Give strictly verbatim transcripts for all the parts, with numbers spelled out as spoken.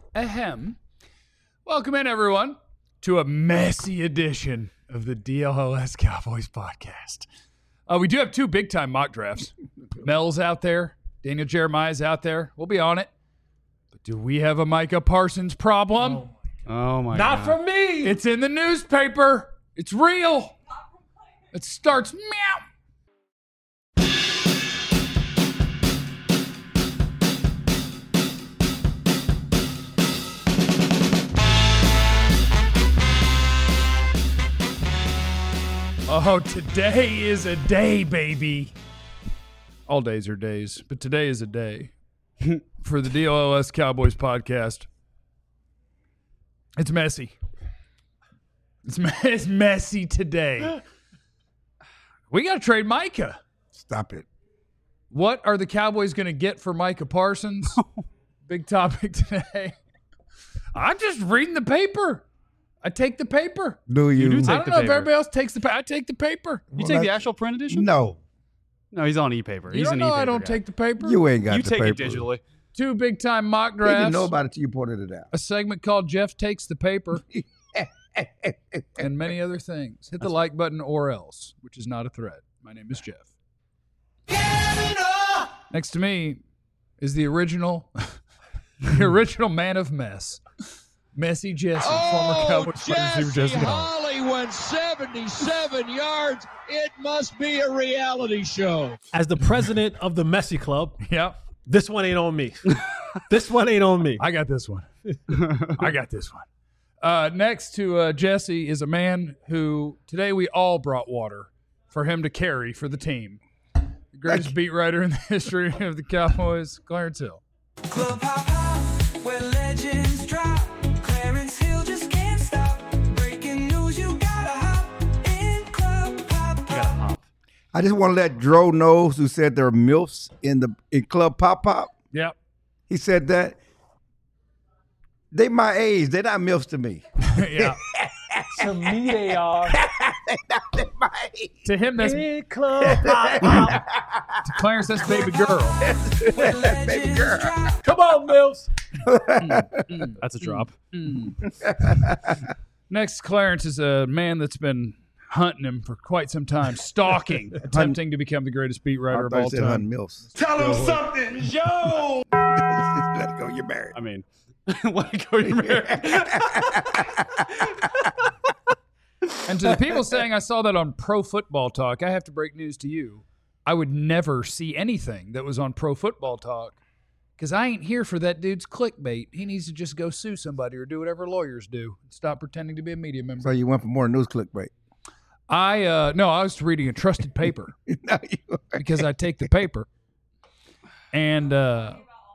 Ahem. Welcome in, everyone, to a messy edition of the D L O S Cowboys podcast. Uh, we do have two big-time mock drafts. Mel's out there. Daniel Jeremiah's out there. We'll be on it. But do we have a Micah Parsons problem? Oh, oh my Not God. from me. It's in the newspaper. It's real. It starts meow. Oh, today is a day, baby. All days are days, but today is a day for the D L O S Cowboys podcast. It's messy. It's, me- it's messy today. We got to trade Micah. Stop it. What are the Cowboys going to get for Micah Parsons? Big topic today. I'm just reading the paper. I take the paper. Do you? do I take don't the know if paper. everybody else takes the paper. I take the paper. You Well, take the that's- actual print edition? No, No, he's on e-paper. You He's don't an know e-paper I don't guy. take the paper. you ain't got You the take paper. it digitally. Two big-time mock They didn't drafts. know about it till you pointed it out. A segment called Jeff Takes the Paper. And many other things. Hit the like button or else, which is not a threat. My name is Jeff. Next to me is the original, the original man of mess, Messy Jesse, former Cowboys wide receiver Jesse Hall. Holly went seventy-seven yards. It must be a reality show. As the president of the Messy Club, Yep, this one ain't on me. This one ain't on me. I got this one. I got this one. Uh, next to uh, Jesse is a man who today we all brought water for him to carry for the team. The greatest beat writer in the history of the Cowboys, Clarence Hill. Club hop hop, where legends drop. Clarence Hill just can't stop. Breaking news, you gotta hop in Club hop hop. I just want to let Dro know who said there are MILFs in the in Club Pop Pop. Yep. He said that. They my age. They're not MILFs to me. Yeah. To me, they are. To him, that's In Club Hop Hop. to Clarence, that's baby girl. Where legends drop. Come on, Mills. That's a drop. Next, Clarence is a man that's been hunting him for quite some time, stalking, attempting to become the greatest beat I writer of thought you all said Hunt time. MILFs. Tell him something, yo. Let it go. You're married. I mean, let it go. You're married. And to the people saying I saw that on Pro Football Talk, I have to break news to you. I would never see anything that was on Pro Football Talk because I ain't here for that dude's clickbait. He needs to just go sue somebody or do whatever lawyers do. Stop pretending to be a media member. So you went for more news clickbait. I uh no, I was reading a trusted paper No, you because I take the paper. And uh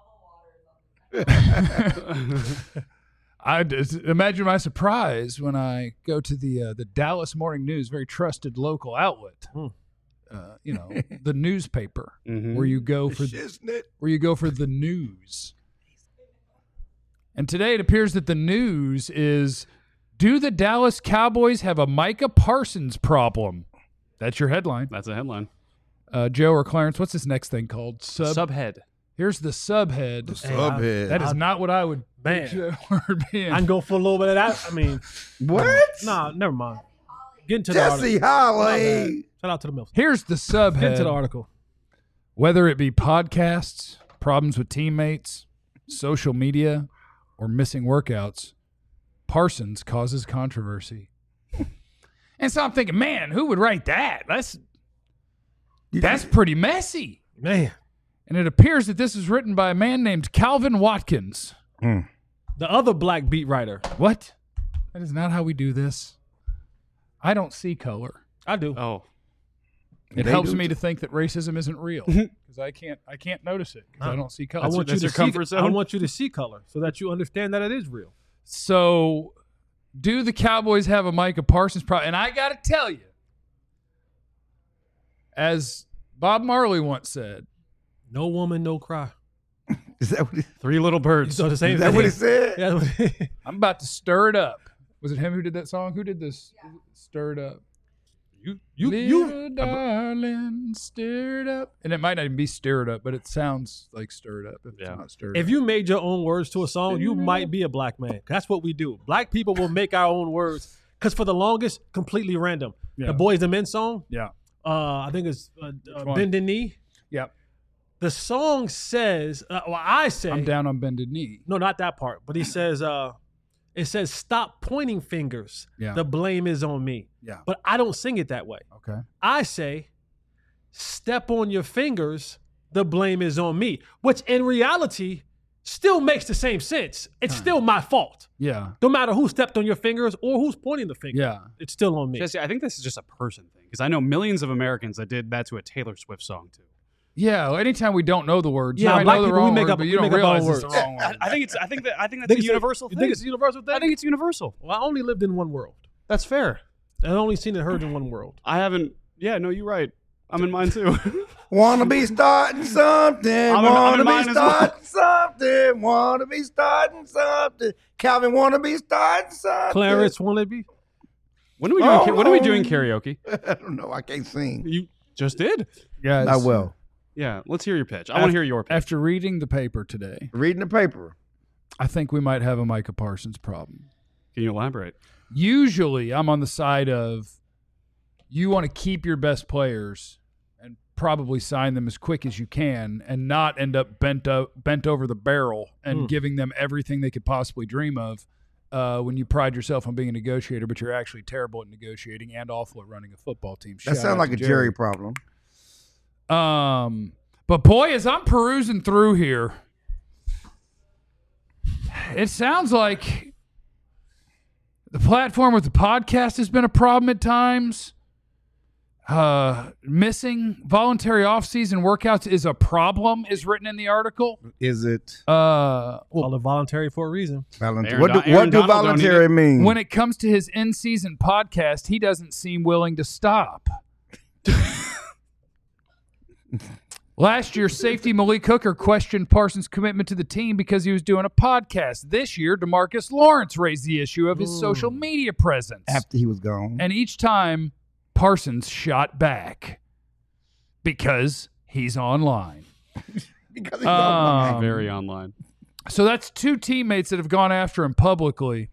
I just imagine my surprise when I go to the uh, the Dallas Morning News, very trusted local outlet. Hmm. Uh, you know, the newspaper Mhm. where you go for Shiznit. where you go for the news. And today it appears that the news is: do the Dallas Cowboys have a Micah Parsons problem? That's your headline. That's a headline. Uh, Joe or Clarence, what's this next thing called? Sub. Subhead. Here's the subhead. Subhead. That is not what I would Man. picture that word being. I can go for a little bit of that. I mean, What? nah, never mind. Get into the Jesse article. Holly. Shout out to the Mills. Here's the Get into the subhead. article. Whether it be podcasts, problems with teammates, social media, or missing workouts, Parsons causes controversy. And so I'm thinking, man, who would write that? That's that's pretty messy. Man, And it appears that this is written by a man named Calvin Watkins. the other black beat writer. What? That is not how we do this. I don't see color. I do. Oh. It They helps do me to think that racism isn't real because I can't I can't notice it because I don't see color. I want you that's to your see. comfort I zone? want you to see color so that you understand that it is real. So, do the Cowboys have a Micah Parsons problem? And I got to tell you, as Bob Marley once said, No woman, no cry. Is that what he, Three little You birds. saw the same is that thing. what he said? Yeah, that's what- I'm about to stir it up. Was it him who did that song? Who did this? Stir it up. You you Little you. darling, stirred up. And it might not even be stirred up, but it sounds like stirred up. If Yeah. it's not stirred If up. you made your own words to a song, you might be a black man. That's what we do. Black people will make our own words because for the longest, completely random. Yeah. The Boys and Men song, Yeah. uh, I think it's uh, uh, one? Bend the Knee. Yep. The song says, uh, well, I say, I'm down on bended knee. no, not that part, but he says, uh, it says, stop pointing fingers. Yeah. The blame is on me. Yeah. But I don't sing it that way. Okay. I say, step on your fingers, the blame is on me, which in reality still makes the same sense. It's still my fault. Yeah. No matter who stepped on your fingers or who's pointing the finger. Yeah. It's still on me. Jesse, I think this is just a person thing because I know millions of Americans that did that to a Taylor Swift song too. Yeah. Well, anytime we don't know the words, Yeah, you might black know the people, we wrong make word, up- but we you don't make up our realize it's the words. wrong I, word. I think it's. I think that. I think that's Think a it's universal you thing. think it's a universal thing? I think it's universal. Well, I only lived in one world. That's fair. I've only seen it heard in one world. I haven't. Yeah, no, you're right. I'm in mine too. Wanna be starting something. I'm in- I'm wanna in be mine as well. starting something. Wanna be starting something. Calvin wanna be starting something. Clarence Wannabe. when are we doing? Oh, ca- when are we oh. doing karaoke? I don't know. I can't sing. You just did. Guys, Not well. Yeah, let's hear your pitch. I want to hear your pitch. After reading the paper today, Reading the paper. I think we might have a Micah Parsons problem. Can you elaborate? Usually, I'm on the side of you want to keep your best players and probably sign them as quick as you can and not end up bent o- bent over the barrel and Hmm. giving them everything they could possibly dream of uh, when you pride yourself on being a negotiator, but you're actually terrible at negotiating and awful at running a football team. That Shout sounds out like to a Jerry problem. Um, but boy, as I'm perusing through here, it sounds like the platform with the podcast has been a problem at times. Uh, missing voluntary off-season workouts is a problem, is written in the article. Is it Uh, well, Call it voluntary for a reason. voluntary? Aaron What do, Don- what Aaron do Donald don't voluntary mean? when it comes to his in-season podcast, he doesn't seem willing to stop. Last year, safety Malik Hooker questioned Parsons' commitment to the team because he was doing a podcast. This year, DeMarcus Lawrence raised the issue of his Ooh. social media presence. After he was gone. And each time, Parsons shot back because he's online. because he's Um, online. Very online. So that's two teammates that have gone after him publicly.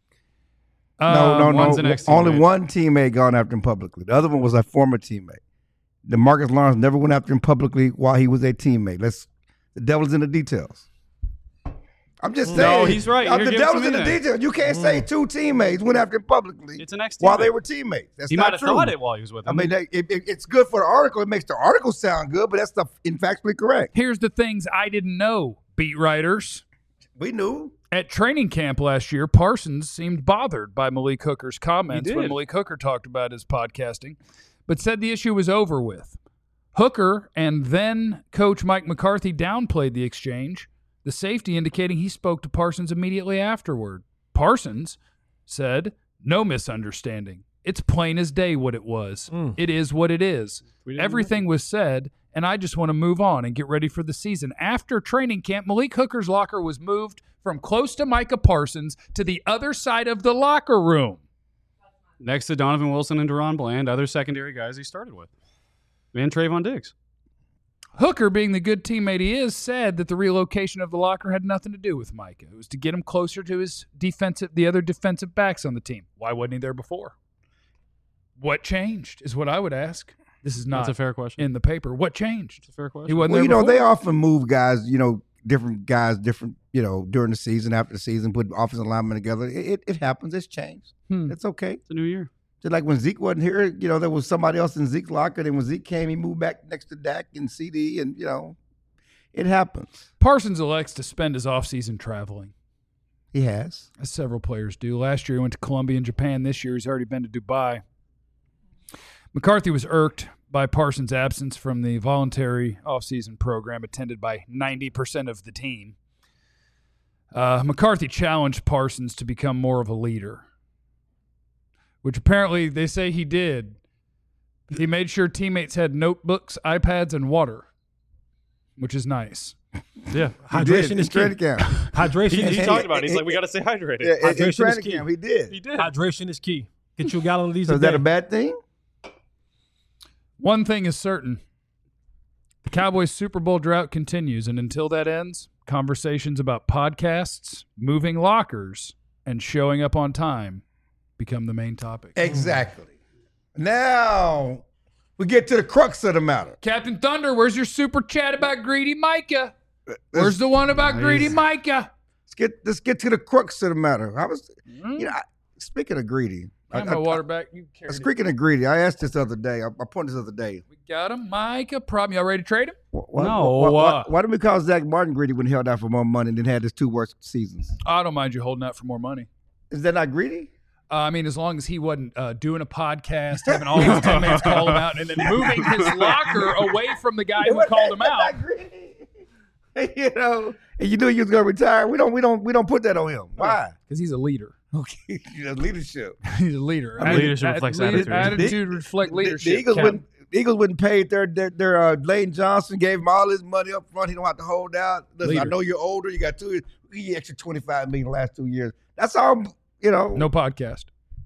No, Um, no, one's no. an ex-teammate. Only one teammate gone after him publicly. The other one was a former teammate. DeMarcus Lawrence never went after him publicly while he was a teammate. Let's. The devil's in the details. I'm just saying. No, he's right. uh, You're the giving devil's some in the in there. details. You can't say two teammates went after him publicly It's an ex while they were teammates. That's He not might have true. thought it while he was with I him. mean, they, it, it- it's good for the article. It makes the article sound good, but that's the in factually correct. Here's the things I didn't know, beat writers. We knew. At training camp last year, Parsons seemed bothered by Malik Hooker's comments He when did. Malik Hooker talked about his podcasting, but said the issue was over with. Hooker and then coach Mike McCarthy downplayed the exchange, the safety indicating he spoke to Parsons immediately afterward. Parsons said, "No misunderstanding. It's plain as day what it was. Mm. It is what it is. We didn't Everything was said, and I just want to move on and get ready for the season." After training camp, Malik Hooker's locker was moved from close to Micah Parsons to the other side of the locker room. Next to Donovan Wilson and Deron Bland, other secondary guys he started with. And Trayvon Diggs. Hooker, being the good teammate he is, said that the relocation of the locker had nothing to do with Micah. It was to get him closer to his defensive, the other defensive backs on the team. Why wasn't he there before? What changed is what I would ask. This is not That's a fair question. in the paper. What changed? That's a fair question. He wasn't Well, there you know, before. they often move guys, you know, different guys, different, you know, during the season, after the season, put offensive linemen together. It, it, it happens. It's changed. Hmm. It's okay. It's a new year. Just like when Zeke wasn't here, you know, there was somebody else in Zeke's locker. Then when Zeke came, he moved back next to Dak and C D, and, you know, it happens. Parsons elects to spend his offseason traveling, He has. as several players do. Last year he went to Colombia and Japan. This year he's already been to Dubai. McCarthy was irked by Parsons' absence from the voluntary offseason program attended by ninety percent of the team. Uh, McCarthy challenged Parsons to become more of a leader, which apparently they say he did. He made sure teammates had notebooks, iPads, and water, which is nice. Yeah. He Hydration did. is in key. training camp. Hydration He, is he key. talked about it. He's like, we got to stay hydrated. Yeah, in- in Hydration is training key. camp, he did. He did. Hydration is key. Get you a gallon of these So a is that day. a bad thing? One thing is certain. The Cowboys Super Bowl drought continues, and until that ends, conversations about podcasts, moving lockers, and showing up on time become the main topic. Exactly. Now we get to the crux of the matter. Captain Thunder, where's your super chat about Greedy Micah? Where's the one about Greedy Micah? Let's get let's get to the crux of the matter. I was, you know, I, speaking of greedy, I have my water back. You carry it. Speaking of greedy, I asked this the other day. I, I pointed this other day. We got him, Micah. Problem. Y'all ready to trade him? Why, No, Why, why, uh, why did we call Zach Martin greedy when he held out for more money and then had his two worst seasons? I don't mind you holding out for more money. Is that not greedy? Uh, I mean, as long as he wasn't uh, doing a podcast, having all his teammates call him out, and then moving his locker away from the guy who called him out. Not greedy. You know, and you knew he was going to retire. We don't, we don't, we don't put that on him. Why? Because he's a leader. Okay, leadership. He's a leader. I mean, leadership reflects attitude. Attitude reflects The- leadership. The Eagles Cap. wouldn't. The Eagles wouldn't pay their their, their uh, Lane Johnson gave him all his money up front. He don't have to hold out. Listen, I Leader. know you're older. You got two. We give you extra twenty five million the last two years. That's all. You know. No podcast.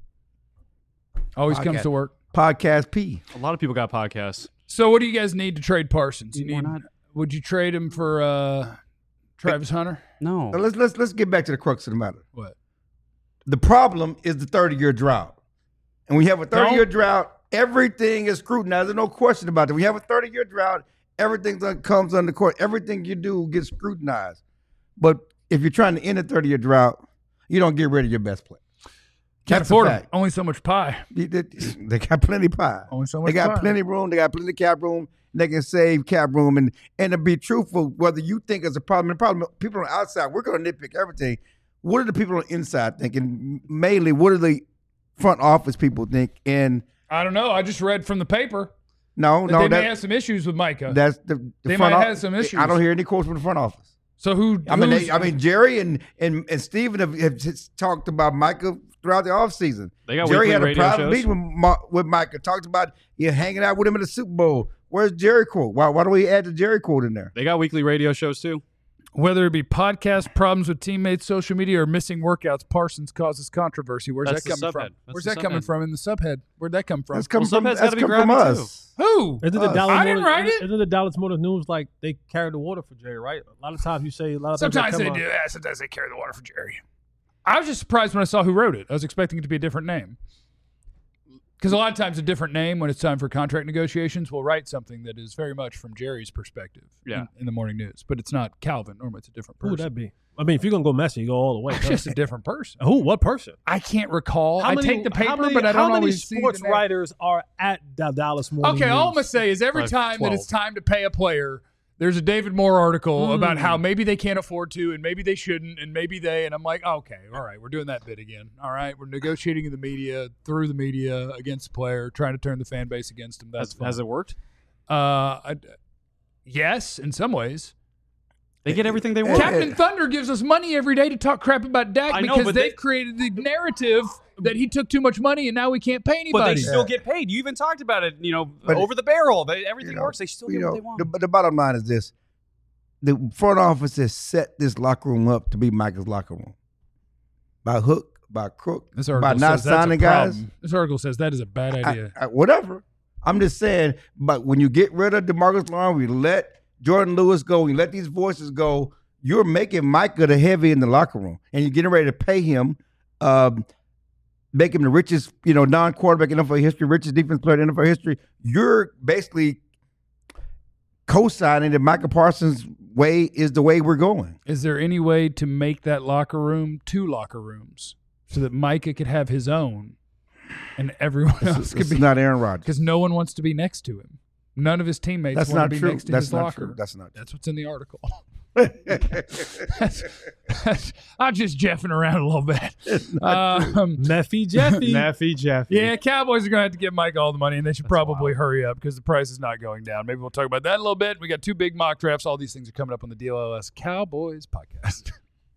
Always comes Podcast. to work. Podcast P. A lot of people got podcasts. So, what do you guys need to trade Parsons? You Why need. not? Would you trade him for uh, Travis Hunter? No. Now let's let's let's get back to the crux of the matter. What? The problem is the thirty year drought, and we have a thirty year Don't- drought. Everything is scrutinized. There's no question about it. We have a thirty year drought. Everything that comes under court. Everything you do gets scrutinized. But if you're trying to end a thirty year drought, you don't get rid of your best player. Can't That's a afford him. fact. Only so much pie. They, they- they got plenty pie. Only so much They got pie. plenty room. They got plenty cap room. They can save cap room. And and to be truthful, whether you think it's a problem, the problem, people on the outside, we're going to nitpick everything. What are the people on the inside thinking? Mainly, what do the front office people think? And I don't know. I just read from the paper no, that no, they may that, have some issues with Micah. that's the, the They front might of- have some issues. I don't hear any quotes from the front office. so who? I mean, who's- they, I mean, Jerry and and and Steven have, have just talked about Micah throughout the offseason. They got Jerry weekly had a radio private shows. meeting with, Ma- with Micah. Talked about you hanging out with him in the Super Bowl. Where's Jerry quote? Why why don't we add the Jerry quote in there? They got weekly radio shows too. Whether it be podcast problems with teammates, social media, or missing workouts, Parsons causes controversy. Where's That's that the coming subhead. from? That's Where's the that coming subhead. from in the subhead? Where'd that come from? That's coming Well, from, subhead's that's gotta be come from grabby, us. Who? Isn't the Us. Dallas I didn't Morning, write it. Isn't the Dallas Morning News like they carry the water for Jerry, right? A lot of times you say a lot of things that Sometimes they come do. on- Yeah, sometimes they carry the water for Jerry. I was just surprised when I saw who wrote it. I was expecting it to be a different name. Because a lot of times a different name when it's time for contract negotiations will write something that is very much from Jerry's perspective Yeah. in, in the morning news. But it's not Calvin. Normally it's a different Who would person. that be? I mean, if you're gonna go messy, you go all the way. It's just a different person. Who? What person? I can't recall. How I many- take the paper, how many, but I don't how many always see sports the name. writers are at the Dallas Morning Okay, all I'm News? gonna say is every Like time that it's twelve. time to pay a player, there's a David Moore article Mm. about how maybe they can't afford to, and maybe they shouldn't, and maybe they. And I'm like, okay, all right, we're doing that bit again. All right, we're negotiating in the media through the media against the player, trying to turn the fan base against him. That's Has, fine. has it worked? Uh, I, yes, in some ways. They get everything they want. Captain Thunder gives us money every day to talk crap about Dak I know, because but they've they- created the narrative that he took too much money and now we can't pay anybody. But they still get paid. You even talked about it. You know, But- over the barrel. They, everything You know, works. They still you get know, what they want. the, but the bottom line is this: the front office has set this locker room up to be Micah's locker room by hook, by crook, This by article not says that's a signing guys. problem. This article says that is a bad I- idea. I- whatever. I'm just saying, but when you get rid of DeMarcus Lawrence, we let Jordan Lewis go, we let these voices go, you're making Micah the heavy in the locker room. And you're getting ready to pay him, um, make him the richest, you know, non-quarterback in N F L history, richest defense player in N F L history. You're basically co-signing that Micah Parsons' way is the way we're going. Is there any way to make that locker room two locker rooms so that Micah could have his own and everyone else could It's be? not Aaron Rodgers. Because no one wants to be next to him. None of his teammates That's want not to be true. next to That's his not locker. true. That's not true. That's what's in the article. that's, that's, I'm just jeffing around a little bit. Um, Meffy Jeffy. Naffy Jeffy. yeah, Cowboys are going to have to give Mike all the money, and they should probably hurry up because the price is not going down. Maybe we'll talk about that a little bit. We got two big mock drafts. All these things are coming up on the D L L S Cowboys podcast.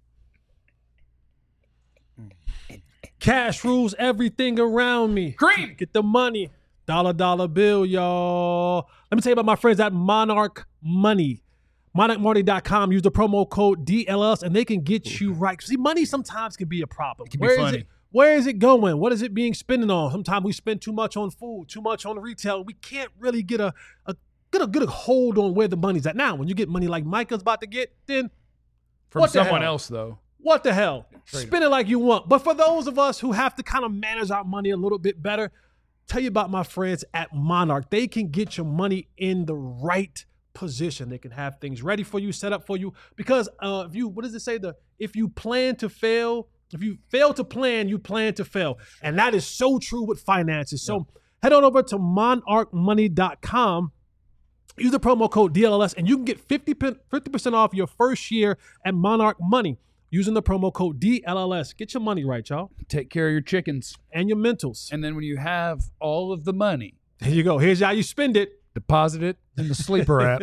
Cash rules everything around me. Cream. Get the money. Dollar, dollar bill, y'all. Let me tell you about my friends at Monarch Money. monarch money dot com. Use the promo code D L S and they can get you right. See, money sometimes can be a problem. can be Where is funny. it? Where is it going? What is it being spent on? Sometimes we spend too much on food, too much on retail. We can't really get a, a get a get a hold on where the money's at. Now, when you get money like Micah's about to get, then From what the someone hell? else, though. What the hell? Spend it like you want. But for those of us who have to kind of manage our money a little bit better, tell you about my friends at Monarch. They can get your money in the right position. They can have things ready for you, set up for you. Because uh, if you, what does it say? The if you plan to fail, if you fail to plan, you plan to fail. And that is so true with finances. So head on over to monarch money dot com. Use the promo code D L L S and you can get fifty percent off your first year at Monarch Money using the promo code D L L S. Get your money right, y'all, Take care of your chickens. and your mentals. And then when you have all of the money, There you go. Here's how you spend it. deposit it in the Sleeper app.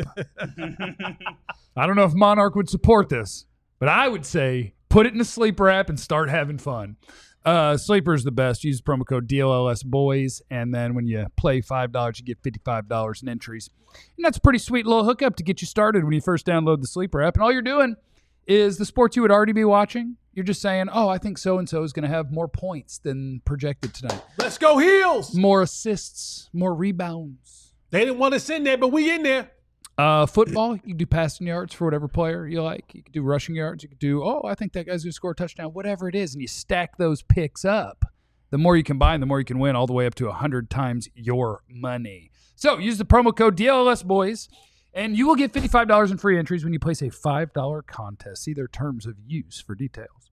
I don't know if Monarch would support this, but I would say put it in the Sleeper app and start having fun. Uh, Sleeper is the best. Use promo code D L L S boys, and then when you play five dollars, you get fifty-five dollars in entries. And that's a pretty sweet little hookup to get you started when you first download the Sleeper app. And all you're doing is the sports you would already be watching. You're just saying, oh, I think so-and-so is going to have more points than projected tonight. Let's go Heels. More assists, more rebounds. They didn't want us in there, but we in there. Uh, football, you can do passing yards for whatever player you like. You can do rushing yards. You can do, oh, I think that guy's going to score a touchdown, whatever it is. And you stack those picks up. The more you combine, the more you can win, all the way up to one hundred times your money. So use the promo code D L L S boys, and you will get fifty-five dollars in free entries when you place a five dollar contest. See their terms of use for details.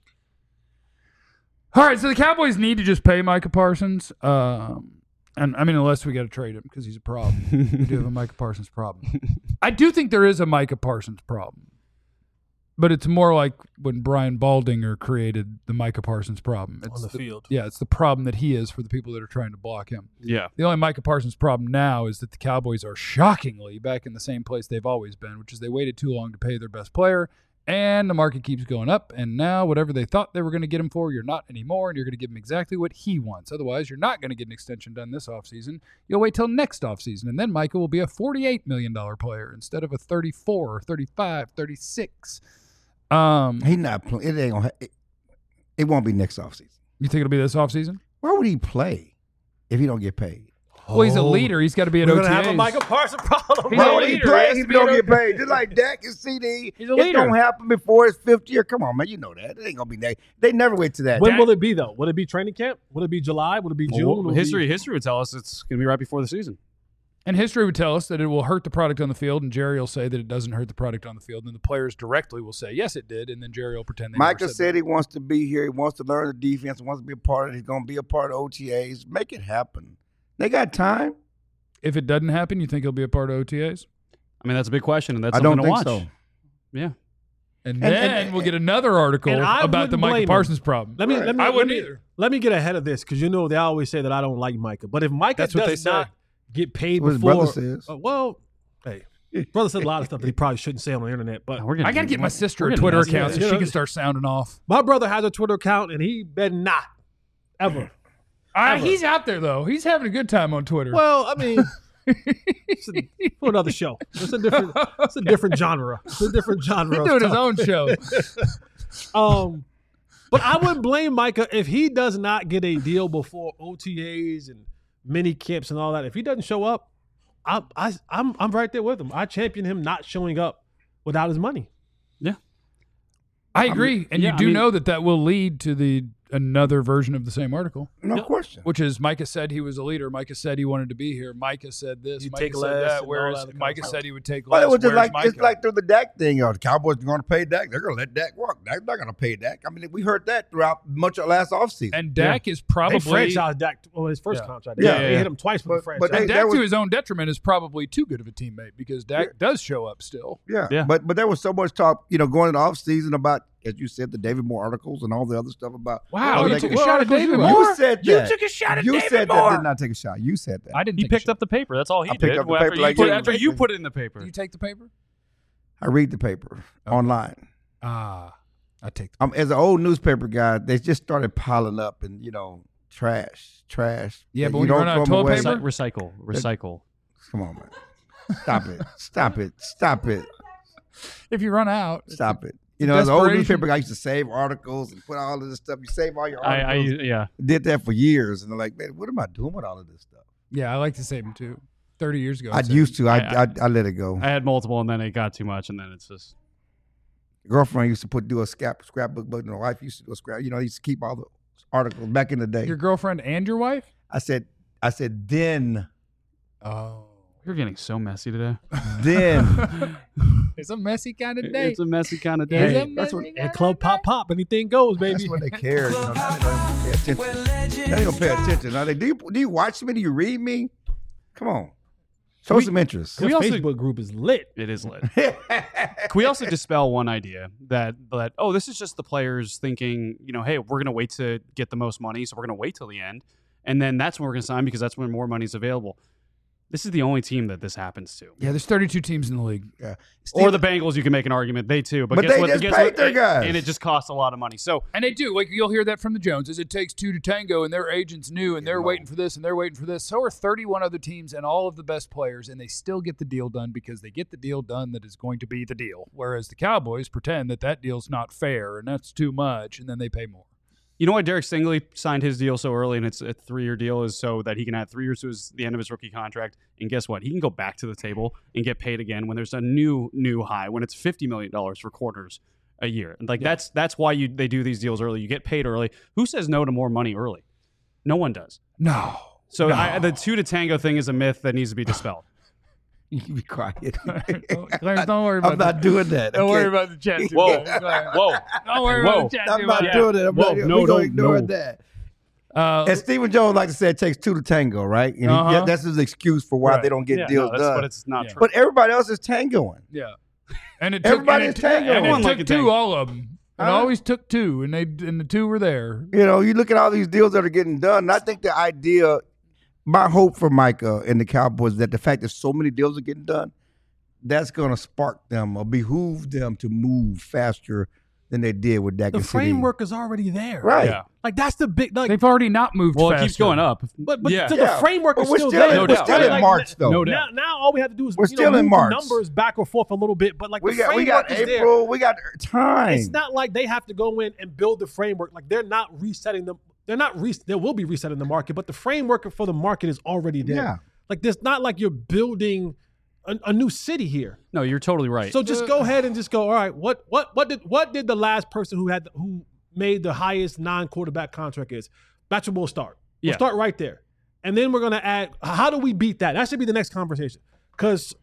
All right, so the Cowboys need to just pay Micah Parsons. Um, and I mean, unless we got to trade him because he's a problem. We do have a Micah Parsons problem. I do think there is a Micah Parsons problem, but it's more like when Brian Baldinger created the Micah Parsons problem. It's On the field. Yeah, it's the problem that he is for the people that are trying to block him. Yeah. The only Micah Parsons problem now is that the Cowboys are shockingly back in the same place they've always been, which is they waited too long to pay their best player, and the market keeps going up, and now whatever they thought they were going to get him for, you're not anymore, and you're going to give him exactly what he wants. Otherwise, you're not going to get an extension done this offseason. You'll wait till next offseason, and then Micah will be a forty-eight million dollars player instead of a thirty-four, thirty-five, thirty-six. Um, He not playing. It ain't gonna. Ha- it, it won't be next offseason. you think it'll be this offseason? Why would he play if he don't get paid? Well, he's a leader. He's got to be at We're O going T to As. have a Micah Parsons problem. He's Why a would he leader. play He has if to he be don't an get O- paid? Just like Dak and C D. He's a It leader. don't happen before his fifth year. Come on, man. You know that. It ain't gonna be that. They never wait to that. When Dak- will it be, though? Will it be training camp? Will it be July? Will it be June? Well, Will it history be- history would tell us it's going to be right before the season. And history would tell us that it will hurt the product on the field, and Jerry will say that it doesn't hurt the product on the field, and the players directly will say, yes, it did, and then Jerry will pretend they never Micah said said that. he wants to be here. He wants to learn the defense. He wants to be a part of it. He's gonna be a part of O T As. Make it happen. They got time. If it doesn't happen, you think he'll be a part of O T As? I mean, that's a big question, and that's I something don't to think watch. so. Yeah. And And- then and- we'll get another article and I about the wouldn't Micah blame him. Parsons problem. Let me, Right. let me, I let wouldn't me, either. Let me get ahead of this because you know they always say that I don't like Micah. But if Micah That's does what they say. not get paid What his before, brother says. Uh, well, hey, brother said a lot of stuff that he probably shouldn't say on the internet. But We're gonna, I got to get my sister we're a gonna Twitter mess with account it. so You she know, can start sounding off. my brother has a Twitter account and he better not ever. Uh, he's out there, though. He's having a good time on Twitter. Well, I mean, it's a, for another show. It's a different. It's a different genre. It's a different genre. he's of doing his stuff. own show. Um, but I wouldn't blame Micah if he does not get a deal before O T As and mini camps and all that. If he doesn't show up, I, I, I'm I'm right there with him. I champion him not showing up without his money. I agree. And yeah, you I do mean- know that that will lead to the another version of the same article, No question. which is Micah said he was a leader. Micah said he wanted to be here. Micah said this. He'd Micah take said less that. and Whereas all that Micah kind of said he would take But less. it was just Where's like it's Micah? like through the Dak thing. You know, the Cowboys are going to pay Dak. They're going to let Dak walk. They're not going to pay Dak. I mean, we heard that throughout much of last offseason. And Dak is They probably franchised Dak well, his first Yeah. contract. Yeah, Yeah, they yeah. hit him twice with But- the franchise. but and Hey, Dak that was- to his own detriment is probably too good of a teammate because Dak Yeah. does show up still. Yeah. Yeah. But but there was so much talk, you know, going into off season about, as you said, the David Moore articles and all the other stuff about. Wow, oh, you they took could- a shot at articles David you Moore. You said that. You took a shot at You David said Moore. that. Did not take a shot. You said that. I didn't. He take a picked shot. up the paper. That's all he I picked did. up the Well, paper after you like put you- it- After you put it in the Do paper. you take the paper? I read the paper online. Ah, I take the Um, as an old newspaper guy, they just started piling up and, you know, trash, trash. Yeah, And but when you run out of throw 'em toilet away. paper? Recycle, recycle. Come on, man. Stop it. Stop it. Stop it. If you run out, Stop it. You know, as an old Desperation. newspaper guy, I used to save articles and put all of this stuff. You save all your I, I articles. yeah. Did that for years, and they're like, man, what am I doing with all of this stuff? Yeah, I like to save them too. Thirty years ago, I saved used to. I, I- I I let it go. I had multiple, and then it got too much, and then it's just Girlfriend used to put do a scrap scrapbook, but my wife used to do a scrap. You know, I used to keep all the articles back in the day. your girlfriend and your wife. I said, I said, then, Oh, you're getting so messy today. then. it's a messy kind of day. It's a messy kind of It's day. a that's what- messy And kinda club day. pop pop, anything goes, baby. That's when they care. You know, now they don't even pay attention. Now they don't pay attention. Now they do. You, do you watch me? Do you read me? Come on, show We- some interest. Your We also- Facebook group is lit. It is lit. Can we also dispel one idea that that oh, this is just the players thinking, you know, hey, we're gonna wait to get the most money, so we're gonna wait till the end, and then that's when we're gonna sign because that's when more money's available. This is the only team that this happens to. Yeah, there's thirty-two teams in the league. Yeah. Or the Bengals, you can make an argument. They too, but, But guess they what? just guess paid what? their It- guys. and it just costs a lot of money. So And they do. Like you'll hear that from the Joneses. It takes two to tango, and their agents knew, and they're waiting for this, and they're waiting for this. So are thirty-one other teams and all of the best players, and they still get the deal done because they get the deal done that is going to be the deal. Whereas the Cowboys pretend that that deal's not fair and that's too much, and then they pay more. you know why Derek Stingley signed his deal so early, and it's a three-year deal, is so that he can add three years to his, the end of his rookie contract. And guess what? He can go back to the table and get paid again when there's a new new high, when it's fifty million dollars for quarters a year. And like that's that's why you they do these deals early. You get paid early. Who says no to more money early? No one does. No. So No. I, the two to tango thing is a myth that needs to be dispelled. You can be quiet. Clarence, don't worry about I'm not the, doing that. Don't okay? worry about the chat. too Whoa, much. Clarence. whoa, Don't worry Whoa. about the chat. I'm too not much. doing it. I'm Whoa, not, no, we're no, gonna ignore no. that. Uh, And Stephen Jones like to say it takes two to tango, right? And he- Uh-huh. yeah, that's his excuse for why Right. they don't get Yeah, deals no, that's, done. but it's not Yeah. true. But everybody else is tangoing. Yeah. And it took, Everybody and it, is tango. and it Everyone took like a two, tango. all of them. It Huh? always took two, and they and the two were there. You know, you look at all these deals that are getting done. And I think the idea, my hope for Micah and the Cowboys, is that the fact that so many deals are getting done, that's going to spark them or behoove them to move faster than they did with Dak The and C D. framework is already there. Right. Yeah. Like that's the big like They've already not moved Well, faster. it keeps going up. but but yeah. so Yeah. the framework But is we're still, still, there. in, No we're doubt. still Like, in March, though. No now, doubt. now all we have to do is We're you still know, in move March. the numbers back or forth a little bit, but like We the got, we framework got is there. April. We got time. It's not like they have to go in and build the framework. Like they're not resetting them. They're not re- They will be resetting the market, but the framework for the market is already there. Yeah. Like there's not like you're building a, a new city here. No, you're totally right. So just go ahead and just go. All right, what what what did what did the last person who had who made the highest non-quarterback contract is? That's where we'll start. We'll Yeah. start right there, and then we're gonna add. How do we beat that? That should be the next conversation. Because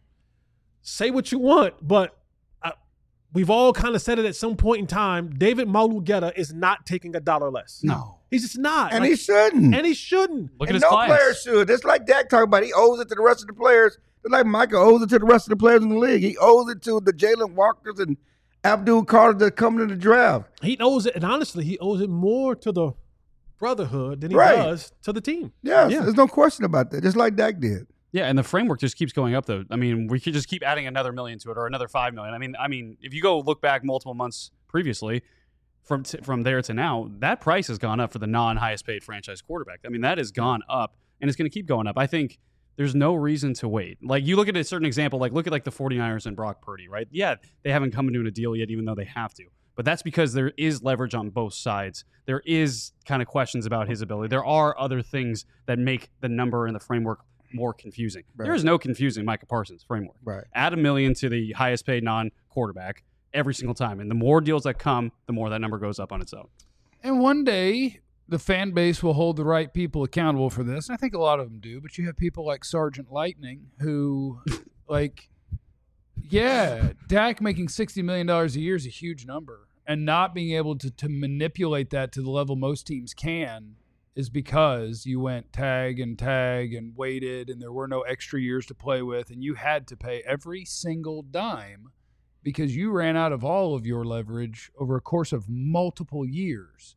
say what you want, but I, we've all kind of said it at some point in time. David Malugeta is not taking a dollar less. no. He's just not, and Like, he shouldn't. and he shouldn't. Look at and his no clients. player should. It's like Dak talking about. He owes it to the rest of the players. It's like Micah owes it to the rest of the players in the league. He owes it to the Jalen Walkers and Abdul Carter that come to the draft. He owes it, and honestly, he owes it more to the brotherhood than he Right. does to the team. Yes, Yeah. there's no question about that. Just like Dak did. Yeah, and the framework just keeps going up though. I mean, we could just keep adding another million to it or another five million. I mean, I mean, if you go look back multiple months previously, from t- from there to now, that price has gone up for the non-highest paid franchise quarterback. I mean, that has gone up, and it's going to keep going up. I think there's no reason to wait. Like you look at a certain example, like look at like the 49ers and Brock Purdy, right? Yeah, they haven't come into a deal yet, even though they have to. But that's because there is leverage on both sides. There is kind of questions about his ability. There are other things that make the number and the framework more confusing. Right. There is no confusing Micah Parsons framework. Right. Add a million to the highest paid non-quarterback every single time. And the more deals that come, the more that number goes up on its own. And one day, the fan base will hold the right people accountable for this. And I think a lot of them do. But you have people like Sergeant Lightning who, like, yeah, Dak making sixty million dollars a year is a huge number. And not being able to, to manipulate that to the level most teams can is because you went tag and tag and waited and there were no extra years to play with. And you had to pay every single dime because you ran out of all of your leverage over a course of multiple years.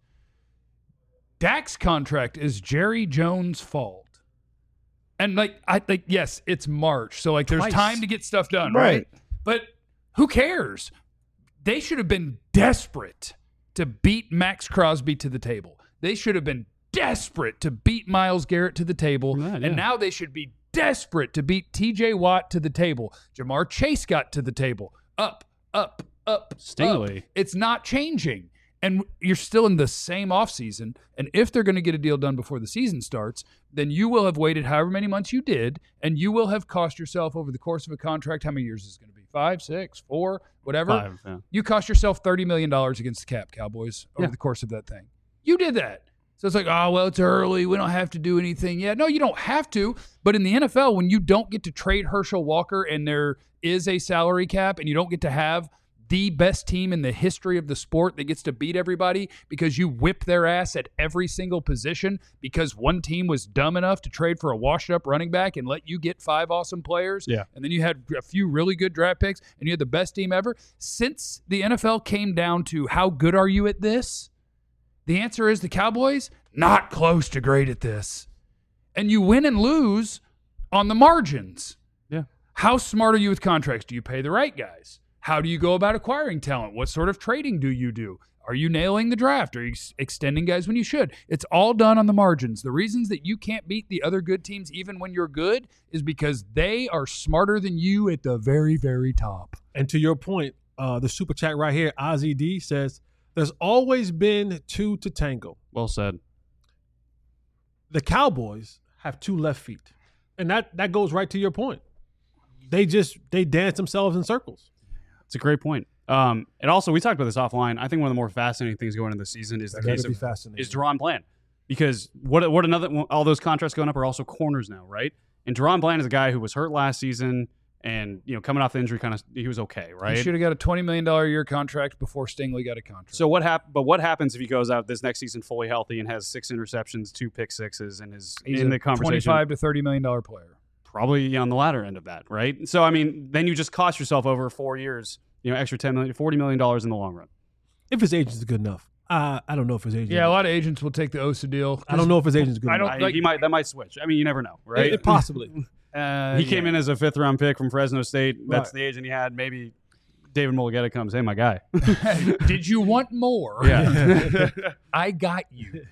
Dak's contract is Jerry Jones' fault. And like I think yes, it's March. So like there's Twice. time to get stuff done, right? Right. But who cares? They should have been desperate to beat Max Crosby to the table. They should have been desperate to beat Myles Garrett to the table. Yeah, yeah. And now they should be desperate to beat T J Watt to the table. Jamar Chase got to the table. Up, up, up, Stingley. up. It's not changing. And you're still in the same offseason. And if they're going to get a deal done before the season starts, then you will have waited however many months you did, and you will have cost yourself over the course of a contract, how many years is it going to be? Five, six, four, whatever? Five, yeah. You cost yourself thirty million dollars against the cap, Cowboys, over Yeah. the course of that thing. You did that. So it's like, oh, well, it's early. We don't have to do anything yet. No, you don't have to. But in the N F L, when you don't get to trade Herschel Walker and there is a salary cap and you don't get to have the best team in the history of the sport that gets to beat everybody because you whip their ass at every single position because one team was dumb enough to trade for a washed-up running back and let you get five awesome players. Yeah. And then you had a few really good draft picks and you had the best team ever. Since the N F L came down to how good are you at this, the answer is the Cowboys, not close to great at this. And you win and lose on the margins. Yeah. How smart are you with contracts? Do you pay the right guys? How do you go about acquiring talent? What sort of trading do you do? Are you nailing the draft? Are you ex- extending guys when you should? It's all done on the margins. The reasons that you can't beat the other good teams even when you're good is because they are smarter than you at the very, very top. And to your point, uh, the super chat right here, Ozzy D says, there's always been two to tango. Well said. The Cowboys have two left feet. And that, that goes right to your point. They just, they dance themselves in circles. It's a great point. Um, and also, we talked about this offline. I think one of the more fascinating things going into the season is the That case gotta be of fascinating. is Deron Bland, because what what another all those contracts going up are also corners now, right? And Deron Bland is a guy who was hurt last season, and you know coming off the injury, kind of he was okay, right? He should have got a twenty million dollars a year contract before Stingley got a contract. So what hap- But what happens if he goes out this next season fully healthy and has six interceptions, two pick sixes, and is He's in a the conversation? twenty-five to thirty million dollars player. Probably on the latter end of that, right? So I mean, then you just cost yourself over four years, you know, extra ten million, forty million dollars in the long run. If his agent's good enough. Uh, I don't know if his agent Yeah, a lot of agents will take the Osa deal. I don't know if his agent's good I enough. don't- I- like- he might that might switch. I mean, you never know, right? It- it possibly. Uh, he came yeah. in as a fifth round pick from Fresno State. That's Right. the agent he had. Maybe David Mulligetta comes, hey, my guy. Did you want more? Yeah. I got you.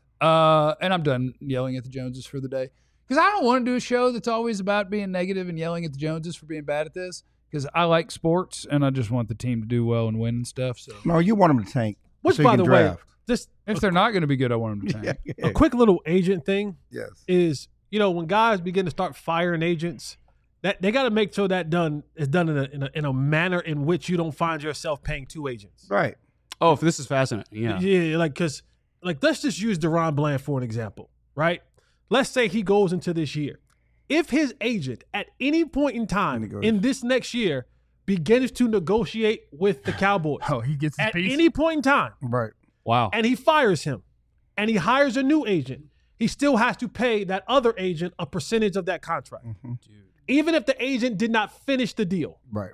Uh, and I'm done yelling at the Joneses for the day. Because I don't want to do a show that's always about being negative and yelling at the Joneses for being bad at this. Because I like sports and I just want the team to do well and win and stuff. So No, you want them to tank. Which, so you by can the way, draft. just if they're not going to be good, I want them to tank. Yeah. a quick little agent thing Yes. is, you know, when guys begin to start firing agents, that they got to make sure that done is done in a, in a in a manner in which you don't find yourself paying two agents. Right. Oh, if this is fascinating. Yeah. Yeah, like because like let's just use Deron Bland for an example, right? Let's say he goes into this year. If his agent at any point in time Negotiate. in this next year begins to negotiate with the Cowboys Oh, he gets his at piece. any point in time, Right. Wow. and he fires him, and he hires a new agent, he still has to pay that other agent a percentage of that contract, even if the agent did not finish the deal. Right.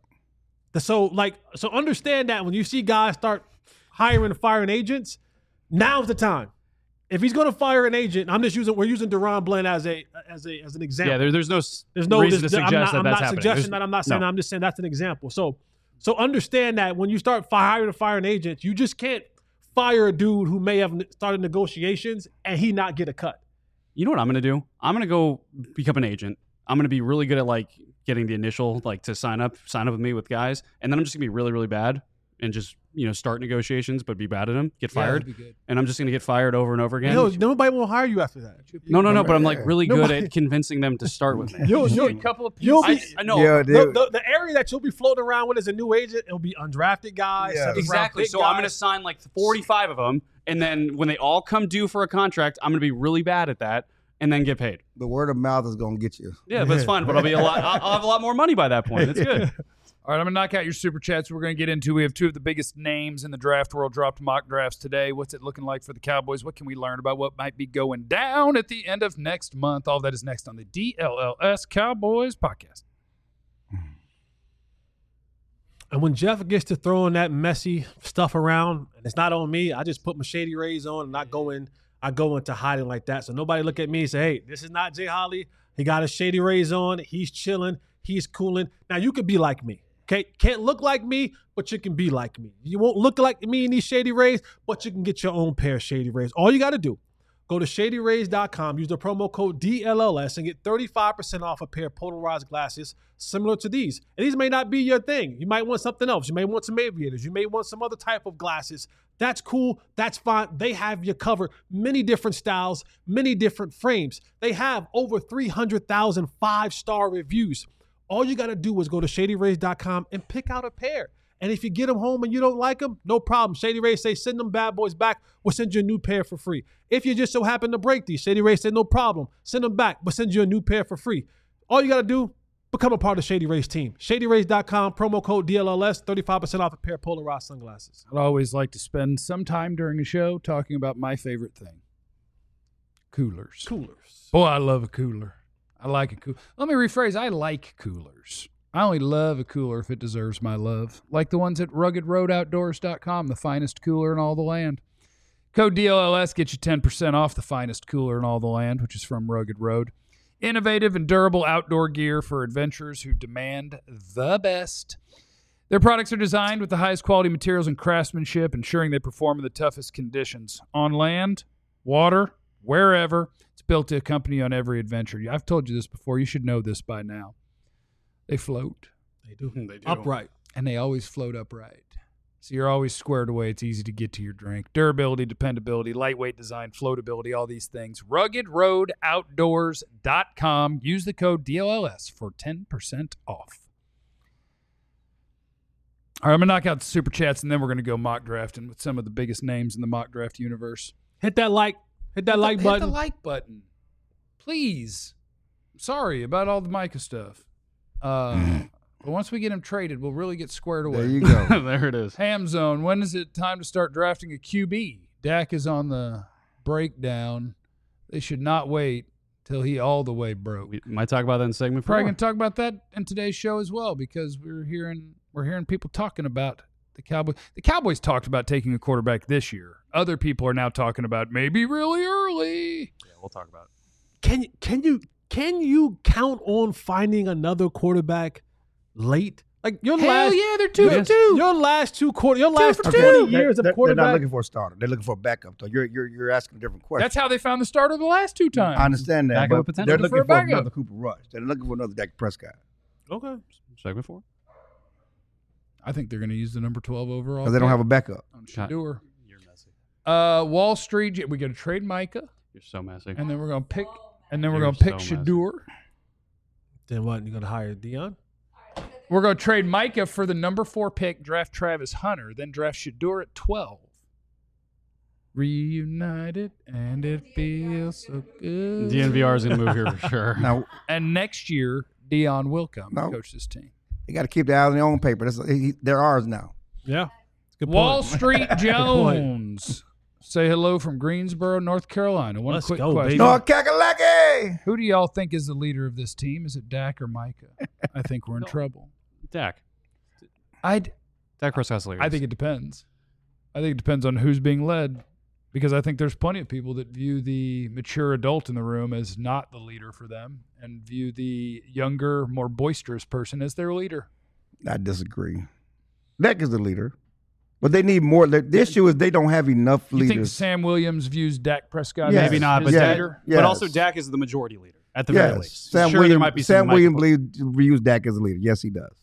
So, like, so understand that when you see guys start hiring and firing agents, now's the time. If he's going to fire an agent, I'm just using we're using Deron Bland as a as a as an example. Yeah, there, there's no s- There's no reason this, to I'm suggest not, that I'm that's not happening. suggesting There's- that. I'm not saying. no. I'm just saying that's an example. So, so understand that when you start hiring and firing agents, you just can't fire a dude who may have started negotiations and he not get a cut. You know what I'm going to do? I'm going to go become an agent. I'm going to be really good at like getting the initial like to sign up, sign up with me with guys, and then I'm just going to be really, really bad and just you know start negotiations, but be bad at them, get Yeah, fired, that'd be good. and I'm just going to get fired over and over again. You know, nobody will hire you after that. no, no, no. But I'm like really good Nobody- at convincing them to start with me. You'll, you'll, a couple of you'll I, be, I know Yeah, they- the, the, the area that you'll be floating around with as a new agent, it'll be undrafted guys. Yeah. seventh round exactly. pick So I'm going to guys. sign like forty-five of them, and then when they all come due for a contract, I'm going to be really bad at that, and then get paid. The word of mouth is going to get you. Yeah, but it's fun. But I'll be a lot. I'll, I'll have a lot more money by that point. It's good. All right, I'm going to knock out your super chats. We're going to get into. We have two of the biggest names in the draft world dropped mock drafts today. What's it looking like for the Cowboys? What can we learn about what might be going down at the end of next month? All that is next on the D L L S Cowboys podcast. And when Jeff gets to throwing that messy stuff around, and it's not on me, I just put my shady rays on and not go in. I go into hiding like that. So nobody look at me and say, hey, this is not Jay Holly. He got his shady rays on. He's chilling. He's cooling. Now you could be like me. Okay. Can't look like me, but you can be like me. You won't look like me in these shady rays, but you can get your own pair of shady rays. All you got to do, Go to shady rays dot com, use the promo code D L L S, and get thirty-five percent off a pair of polarized glasses similar to these. And these may not be your thing. You might want something else. You may want some aviators. You may want some other type of glasses. That's cool. That's fine. They have you covered. Many different styles, many different frames. They have over three hundred thousand five-star reviews. All you got to do is go to shady rays dot com and pick out a pair. And if you get them home and you don't like them, no problem. Shady Rays say, send them bad boys back. We'll send you a new pair for free. If you just so happen to break these, Shady Rays said, no problem. Send them back. We'll send you a new pair for free. All you got to do, become a part of Shady Rays team. shady rays dot com, promo code D L L S, thirty-five percent off a pair of polarized sunglasses. I'd always like to spend some time during a show talking about my favorite thing. Coolers. Coolers. Boy, I love a cooler. I like a cooler. Let me rephrase. I like coolers. I only love a cooler if it deserves my love. Like the ones at rugged road outdoors dot com, the finest cooler in all the land. Code D L L S gets you ten percent off the finest cooler in all the land, which is from Rugged Road. Innovative and durable outdoor gear for adventurers who demand the best. Their products are designed with the highest quality materials and craftsmanship, ensuring they perform in the toughest conditions. On land, water, wherever. It's built to accompany you on every adventure. I've told you this before. You should know this by now. They float. They do. They do. Upright. And they always float upright. So you're always squared away. It's easy to get to your drink. Durability, dependability, lightweight design, floatability, all these things. rugged road outdoors dot com. Use the code D L L S for ten percent off. All right, I'm going to knock out the super chats, and then we're going to go mock drafting with some of the biggest names in the mock draft universe. Hit that like. Hit that Hit the- like button. Hit the like button. Please. Sorry about all the Micah stuff. Uh, but once we get him traded, we'll really get squared away. There you go. There it is. Ham Zone, when is it time to start drafting a Q B? Dak is on the breakdown. They should not wait till he all the way broke. We might talk about that in segment four. Probably going to talk about that in today's show as well, because we're hearing we're hearing people talking about the Cowboys. The Cowboys talked about taking a quarterback this year. Other people are now talking about maybe really early. Yeah, we'll talk about it. Can can you can you count on finding another quarterback late? Like your Hell last, yeah, they're two your, for two. Your last two quarter, your last for twenty two. years they're, of quarterback. They're not looking for a starter. They're looking for a backup. Though you're you're you're asking a different question. That's how they found the starter the last two times. I understand that, Backup but potential. they're Looking looking for a for, backup. another Cooper Rush. They're looking for another Dak Prescott Okay. Segment four. I think they're going to use the number twelve overall. because they don't pick have a backup. on Shador. You're messy. Uh, Wall Street. We got to trade Micah, You're so messy. and then we're going to pick, and then we're You're going to pick so messy. Shador. Then what? You gonna hire Dion? We're going to trade Micah for the number four pick, draft Travis Hunter, then draft Shador at twelve. Reunited, and it feels so good. D N V R is going to move here for sure. Now And next year, Dion will come No. and coach this team. they got to keep the eyes on their own paper. That's, he, they're ours now. Yeah. Good point. Wall Street point. Jones. Say hello from Greensboro, North Carolina. One Let's quick go, question. baby. No Kakalaki. Who do y'all think is the leader of this team? Is it Dak or Micah? I think we're in trouble. Dak. I'd, Dak Prescott's leaders. I think it depends. I think it depends on who's being led, because I think there's plenty of people that view the mature adult in the room as not the leader for them and view the younger, more boisterous person as their leader. I disagree. Dak is the leader, but they need more. The, the issue is they don't have enough You think leaders. Sam Williams views Dak Prescott Yes. as Maybe not, his but Yes. leader? Yes. But also Dak is the majority leader at the very Yes, least. Sam sure, Williams. there might be some Sam Williams Michael- believes views Dak as a leader. Yes, he does.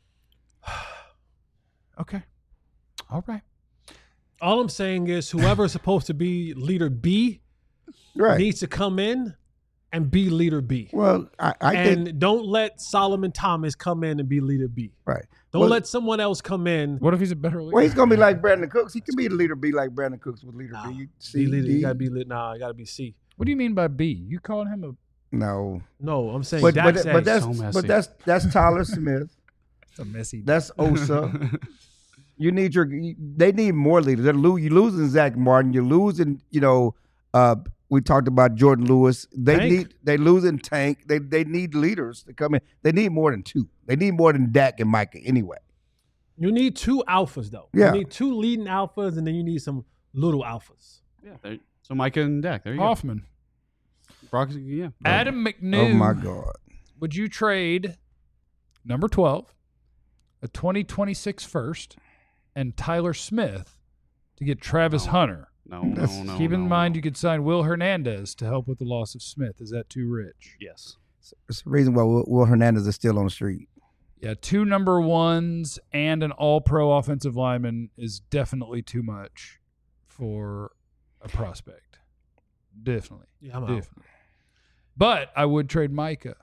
Okay. All right. All I'm saying is whoever is supposed to be leader B Right. needs to come in and be leader B. Well, I, I and think don't let Solomon Thomas come in and be leader B. right. Don't Well, let someone else come in. What if he's a better leader? Well, he's gonna be like Brandon Cooks. He can be the leader B like Brandon Cooks was leader Nah, B. Be C, leader. D. You gotta be lit. Nah, you gotta be C. What do you mean by B? You calling him a No, No, I'm saying but Dak but, said- but that's so messy. but that's that's Tyler Smith. It's a messy. That's Osa. You need your. you- They need more leaders. They're lo- you're losing Zach Martin. You're losing. You know. Uh, we talked about Jordan Lewis. They Tank. need. They losing Tank. They they need leaders to come in. They need more than two. They need more than Dak and Micah anyway. you need two alphas though. Yeah. You need two leading alphas, and then you need some little alphas. Yeah, there- so Micah and Dak. There you Hoffman. go. Brock, yeah. Adam McNew. Oh my God. Would you trade number twelve, a twenty twenty-six first, and Tyler Smith to get Travis Hunter No, no, That's- no. Keep in no, mind no. you could sign Will Hernandez to help with the loss of Smith. Is that too rich? Yes. It's the reason why Will, Will Hernandez is still on the street. Yeah, two number ones and an all-pro offensive lineman is definitely too much for a prospect. Definitely. Yeah, I'm out. Definitely. But I would trade Micah.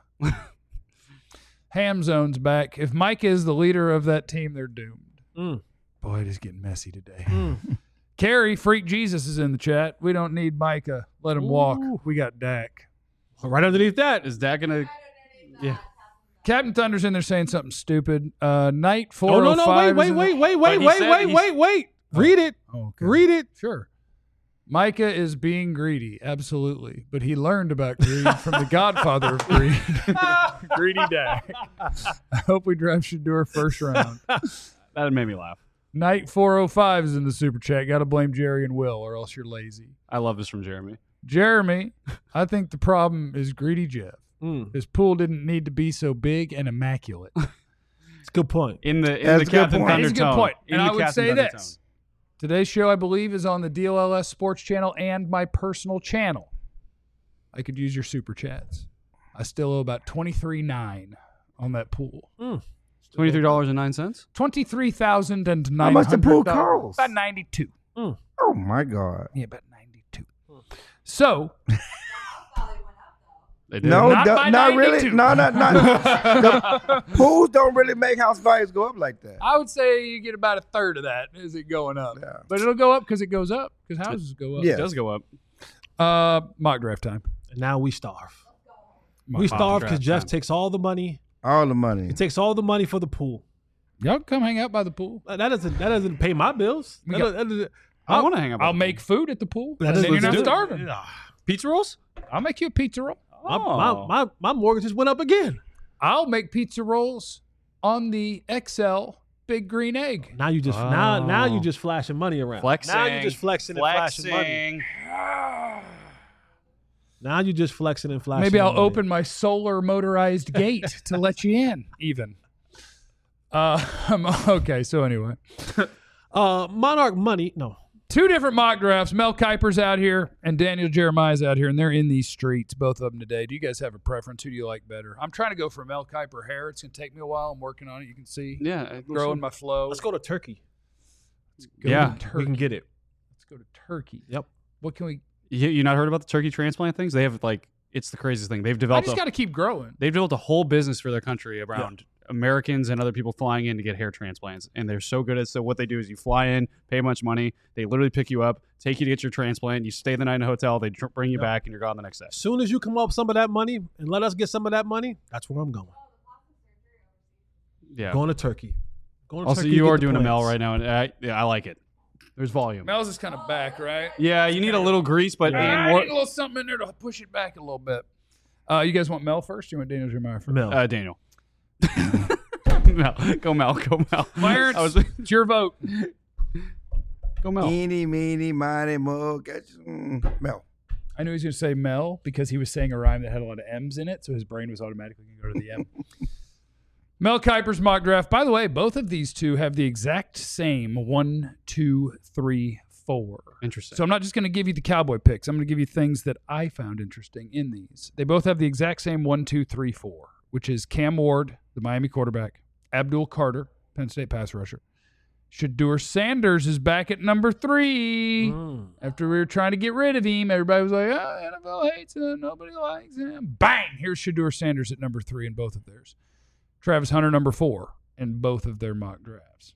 Ham Zone's back. If Micah is the leader of that team, they're doomed. Mm. Boy, it is getting messy today. Mm. Carrie, Freak Jesus is in the chat. We don't need Micah. Let him walk. Ooh. We got Dak. Right underneath that. Is that gonna? Yeah. Captain Thunder's in there saying something stupid. Uh, Night four Oh, oh no, five. no, wait, wait, wait, wait, wait, he wait, said wait, he's- wait, wait. Read it. Oh, okay. Read it. Sure. Micah is being greedy, absolutely. But he learned about greed from the godfather of greed, Greedy Dak. I hope we drive Shador first round. That made me laugh. Night four oh five is in the super chat. Got to blame Jerry and Will, or else you're lazy. I love this from Jeremy. Jeremy, I think the problem is Greedy Jeff. Mm. His pool didn't need to be so big and immaculate. It's a good point. In the in That's the a good Captain point. Thunder It's a good tone. point. In And the I would Captain say Thunder this. Today's show, I believe, is on the D L L S Sports Channel and my personal channel. I could use your super chats. I still owe about twenty-three nine on that pool. tone. Twenty-three dollars and nine cents. Twenty-three thousand and How nine much the pool hundred dollars. cost? About ninety-two. Oh my God. Yeah, about ninety-two. So They did. No, Not the- by not really. ninety-two. No, not not. The pools don't really make house values go up like that. I would say you get about a third of that as it going up. Yeah. But it'll go up because it goes up because houses go up. Yeah. It does go up. Uh, mock draft time. And now we starve. Mock We draft. starve because draft Jeff time. takes all the money. All the money. He takes all the money for the pool. Y'all come hang out by the pool. That doesn't that doesn't pay my bills. We That got- doesn't- that doesn't- I I'll- want to hang out. by I'll the make pool. food at the pool. that and doesn't- then you're not let's do it. starving. Yeah. pizza rolls. I'll make you a pizza roll. My, Oh. my, my, my mortgage just went up again. I'll make pizza rolls on the X L Big Green Egg. Now you just now now you Oh. just flashing money around. Flexing. Now you just flexing and flashing money. Now you just flexing and flashing. Maybe I'll money. open my solar motorized gate to let you in, even. Uh, okay, so anyway. uh Monarch money. No. Two different mock drafts. Mel Kiper's out here and Daniel Jeremiah's out here, and they're in these streets, both of them today. Do you guys have a preference? Who do you like better? I'm trying to go for Mel Kiper hair. It's going to take me a while. I'm working on it. You can see. Yeah. it looks Growing like- my flow. Let's go to Turkey. Go Yeah, to We Turkey. can get it. Let's go to Turkey. Yep. What can we? You, you not heard about the turkey transplant things? They have like it's the craziest thing. They've I developed. just a, got to keep growing. they've developed a whole business for their country around Americans and other people flying in to get hair transplants, and they're so good at. So what they do is you fly in, pay a bunch of money, they literally pick you up, take you to get your transplant. You stay the night in a hotel, they tr- bring you Yep. back, and you're gone the next day. As soon as you come up with some of that money and let us get some of that money, that's where I'm going. Yeah. Going to Turkey. Going to Also, Turkey to you get are the doing a Mel plants. right now, and I, yeah, I like it. There's volume. Mel's is kind of back, right? Yeah, you need a little grease, but I and need more, a little something in there to push it back a little bit. Uh, you guys want Mel first? Or you want Daniel Jeremiah first? Mel. uh, Daniel. Mel, go Mel, go Mel. Clarence, I was, it's your vote. go Mel. Eeny, meeny, miny, mo. Get you- mm, Mel. I knew he was going to say Mel because he was saying a rhyme that had a lot of M's in it, so his brain was automatically going to go to the M. Mel Kiper's mock draft. By the way, both of these two have the exact same one, two, three, four. Interesting. So I'm not just going to give you the Cowboy picks. I'm going to give you things that I found interesting in these. They both have the exact same one, two, three, four, which is Cam Ward, the Miami quarterback, Abdul Carter, Penn State pass rusher. Shador Sanders is back at number three. Mm. After we were trying to get rid of him, everybody was like, oh, N F L hates him. Nobody likes him. Bang! Here's Shador Sanders at number three in both of theirs. Travis Hunter, number four in both of their mock drafts.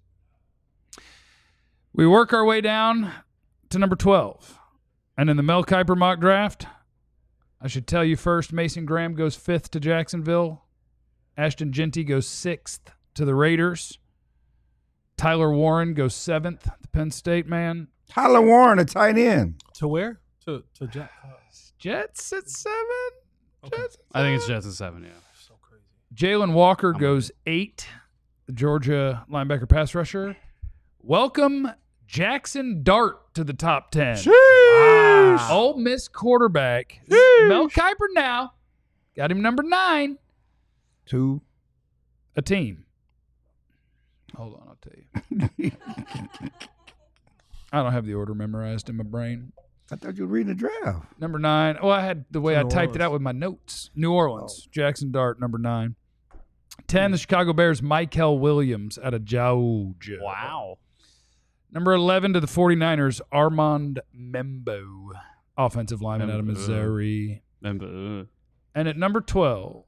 We work our way down to number twelve. And in the Mel Kiper mock draft, I should tell you first, Mason Graham goes fifth to Jacksonville. Ashton Genty goes sixth to the Raiders. Tyler Warren goes seventh to Penn State, man. Tyler Warren, a tight end. To where? To to Jack. uh, Jets at seven. Okay. Jets at I think it's seven. Jets at seven, yeah. So crazy. Jalen Walker goes eight. The Georgia linebacker pass rusher. Welcome Jackson Dart to the top ten. Wow. Ole Miss quarterback. Mel Kiper now. Got him number nine. Two. A team. Hold on, I'll tell you. I don't have the order memorized in my brain. I thought you were reading the draft. Number nine. Well, I had the way I New typed it Orleans. out with my notes. New Orleans. Jackson Dart, number nine. ten, the Chicago Bears, Michael Williams out of Georgia. Wow. Number eleven to the 49ers, Armand Membo, offensive lineman out of Membo. Missouri. Remember, And at number twelve,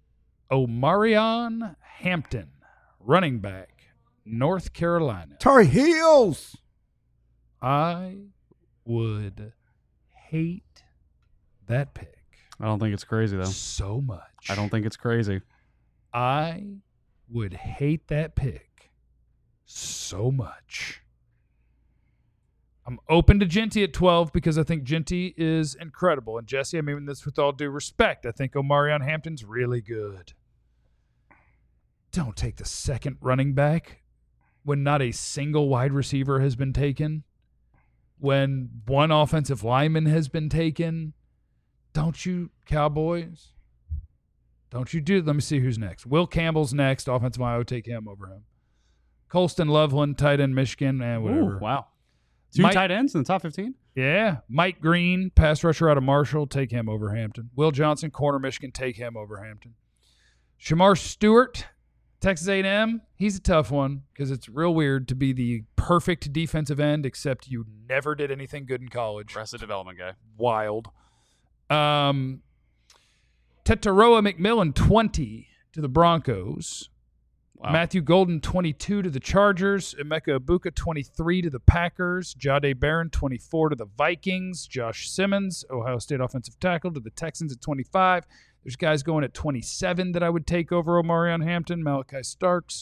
Omarion Hampton, running back, North Carolina. Tar Heels. I would hate that pick I don't think it's crazy though. so much. I don't think it's crazy. I would hate that pick so much. I'm open to Genty at twelve because I think Genty is incredible. And Jesse, I mean this with all due respect. I think Omarion Hampton's really good. Don't take the second running back when not a single wide receiver has been taken, when one offensive lineman has been taken. Don't you, Cowboys? Don't you do? Let me see who's next. Will Campbell's next. Offensive line, I would take him over him. Colston Loveland, tight end, Michigan, and whatever. Ooh, wow. Two Mike- tight ends in the top fifteen? Yeah. Mike Green, pass rusher out of Marshall, take him over Hampton. Will Johnson, corner, Michigan, take him over Hampton. Shamar Stewart, Texas A and M, he's a tough one because it's real weird to be the perfect defensive end except you never did anything good in college. Arrested development guy. Wild. Um, Tetaroa McMillan, twenty to the Broncos. Wow. Matthew Golden, twenty-two to the Chargers. Emeka Ibuka, twenty-three to the Packers. Jahdae Barron, twenty-four to the Vikings. Josh Simmons, Ohio State offensive tackle, to the Texans at twenty-five. There's guys going at twenty-seven that I would take over Omarion Hampton. Malachi Starks.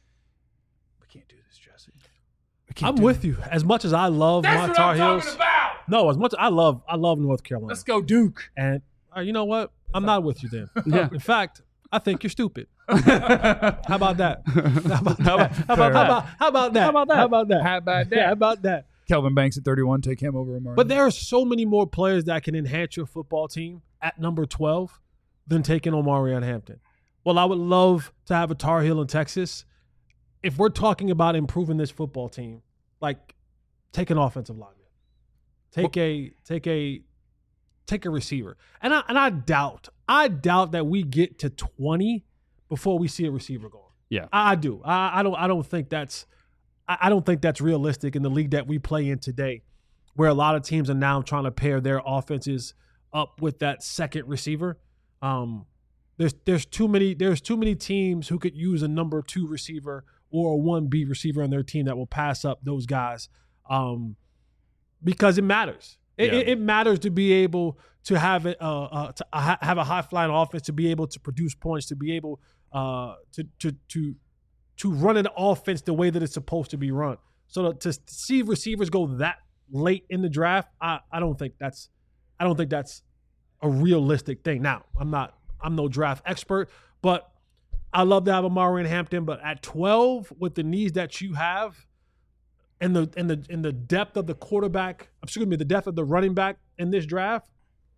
We can't do this, Jesse. We can't I'm do with it. you. As much as I love That's my what Tar I'm Heels, talking about. no, as much I love, I love North Carolina. Let's go, Duke. And uh, you know what? I'm not with you then. Yeah. In fact, I think you're stupid. How about that? How about that? How about, how Fair. about, how about that? How about that? How about that? How about that? Yeah, how about that? Kelvin Banks at thirty-one. Take him over Omarion. But there are so many more players that can enhance your football team at number twelve than taking Omarion Hampton. Well, I would love to have a Tar Heel in Texas. If we're talking about improving this football team, like take an offensive lineman, take a take a take a receiver, and I and I doubt I doubt that we get to twenty before we see a receiver going. Yeah. I, I do. I, I don't. I don't think that's. I, I don't think that's realistic in the league that we play in today, where a lot of teams are now trying to pair their offenses up with that second receiver. Um, there's there's too many there's too many teams who could use a number two receiver or a one B receiver on their team that will pass up those guys, um, because it matters. It, Yeah. it, it matters to be able to have it uh, uh, to ha- have a high flying offense, to be able to produce points, to be able uh, to to to to run an offense the way that it's supposed to be run. So to, to see receivers go that late in the draft, I, I don't think that's I don't think that's a realistic thing. Now, I'm not I'm no draft expert, but I love to have Omarion Hampton. But at twelve, with the needs that you have, and the and the and the depth of the quarterback, excuse me, the depth of the running back in this draft,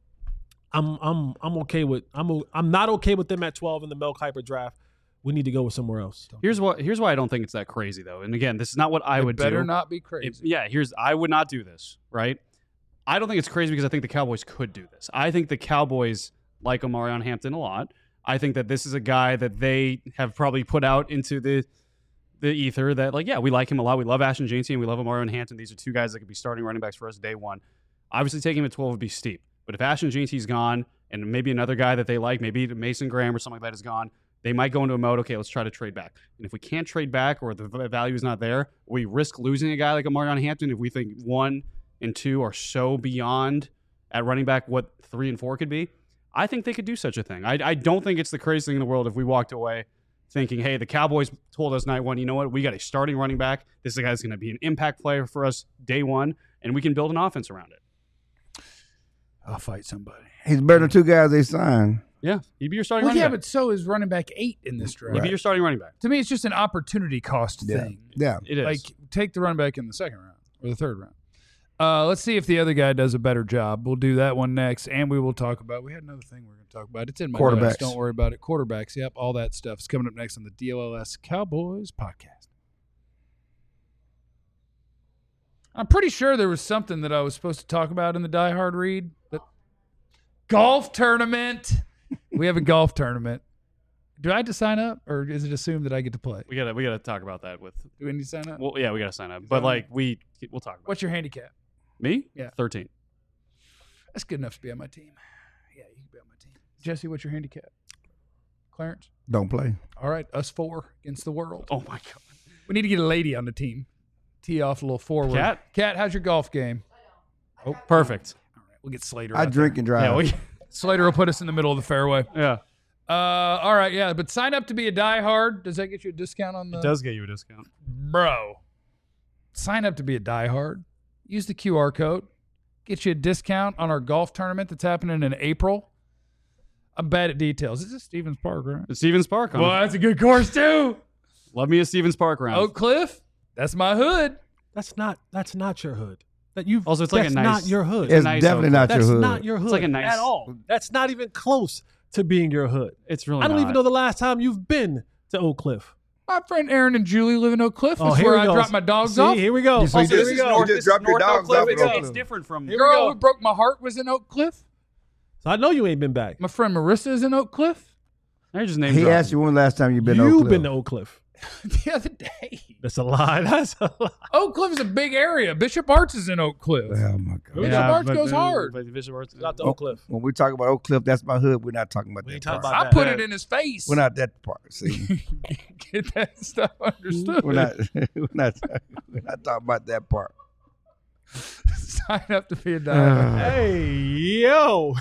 I'm I'm I'm okay with I'm o- I'm not okay with them at twelve in the Mel Kiper draft. We need to go with somewhere else. Here's what. Here's why I don't think it's that crazy though. And again, this is not what I It would better do. not be crazy. If- yeah, here's I would not do this, right? I don't think it's crazy because I think the Cowboys could do this. I think the Cowboys like Omarion Hampton a lot. I think that this is a guy that they have probably put out into the the ether that, like, yeah, we like him a lot. We love Ashton Jancy and we love Omarion Hampton. These are two guys that could be starting running backs for us day one. Obviously, taking him at twelve would be steep. But if Ashton Jancy's gone and maybe another guy that they like, maybe Mason Graham or something like that is gone, they might go into a mode, okay, let's try to trade back. And if we can't trade back or the v- value is not there, we risk losing a guy like Omarion Hampton if we think one and two are so beyond at running back what three and four could be. I think they could do such a thing. I, I don't think it's the craziest thing in the world if we walked away thinking, hey, the Cowboys told us night one, you know what, we got a starting running back. This is a guy that's going to be an impact player for us day one, and we can build an offense around it. I'll fight somebody. He's better than two guys they signed. Yeah, he'd be your starting Well, running yeah, back. but so is running back eight in this draft. He'd be your starting running back. To me, it's just an opportunity cost Yeah. thing. Yeah. It is. Like, take the running back in the second round or the third round. Uh, let's see if the other guy does a better job. We'll do that one next, and we will talk about. We had another thing we we're going to talk about. It's in my Quarterbacks. notes. Don't worry about it. Quarterbacks. Yep, all that stuff is coming up next on the D L L S Cowboys podcast. I'm pretty sure there was something that I was supposed to talk about in the Die Hard read. But golf tournament. We have a golf tournament. Do I have to sign up, or is it assumed that I get to play? We gotta we gotta talk about that with. Do we need to sign up? Well, yeah, we gotta sign up. But like we we'll talk about. What's your handicap? It. Me? Yeah. thirteen. That's good enough to be on my team. Yeah, you can be on my team. Jesse, what's your handicap? Clarence? Don't play. All right, us four against the world. Oh my god. We need to get a lady on the team. Tee off a little forward. Cat? Cat, how's your golf game? Oh, perfect. All right, we'll get Slater. I out drink there. and drive. Yeah. We, Slater will put us in the middle of the fairway. yeah. Uh, all right, yeah, but sign up to be a diehard. Does that get you a discount on the? It does get you a discount. Bro. Sign up to be a diehard. Use the Q R code. Get you a discount on our golf tournament that's happening in April. I'm bad at details. This is Stevens Park, right? The Stevens Park. Well, that's a good course too. Love me a Stevens Park round. Oak Cliff. That's my hood. That's not that's not your hood. That you Also, it's like a that's nice- not your hood. It's nice definitely Oak not That's your hood. not your hood like a nice- at all. That's not even close to being your hood. It's really. I don't not. even know the last time you've been to Oak Cliff. My friend Aaron and Julie live in Oak Cliff. Oh, That's here where we I go. drop my dogs See, off. here we go. You see, Also, this this is is North- North, you this just is drop your North Oak dogs Cliff. off at It's, Oak it's Cliff. different from. The girl who broke my heart was in Oak Cliff. So I know you ain't been back. My friend Marissa is in Oak Cliff. I just named. He asked you when the last time you've been to Oak You've Cliff. been to Oak Cliff. The other day. That's a lie. That's a lie. Oak Cliff is a big area. Bishop Arts is in Oak Cliff. Oh my God. Bishop Arts goes hard. Bishop Arts. Not the Oak Cliff. When we talk about Oak Cliff, that's my hood. We're not talking about We that ain't talking part. about I that. put it in his face. We're not that part. See, Get that stuff understood. we're not. We're not. We're not talking about that part. Sign up to be a diehard. Hey, yo.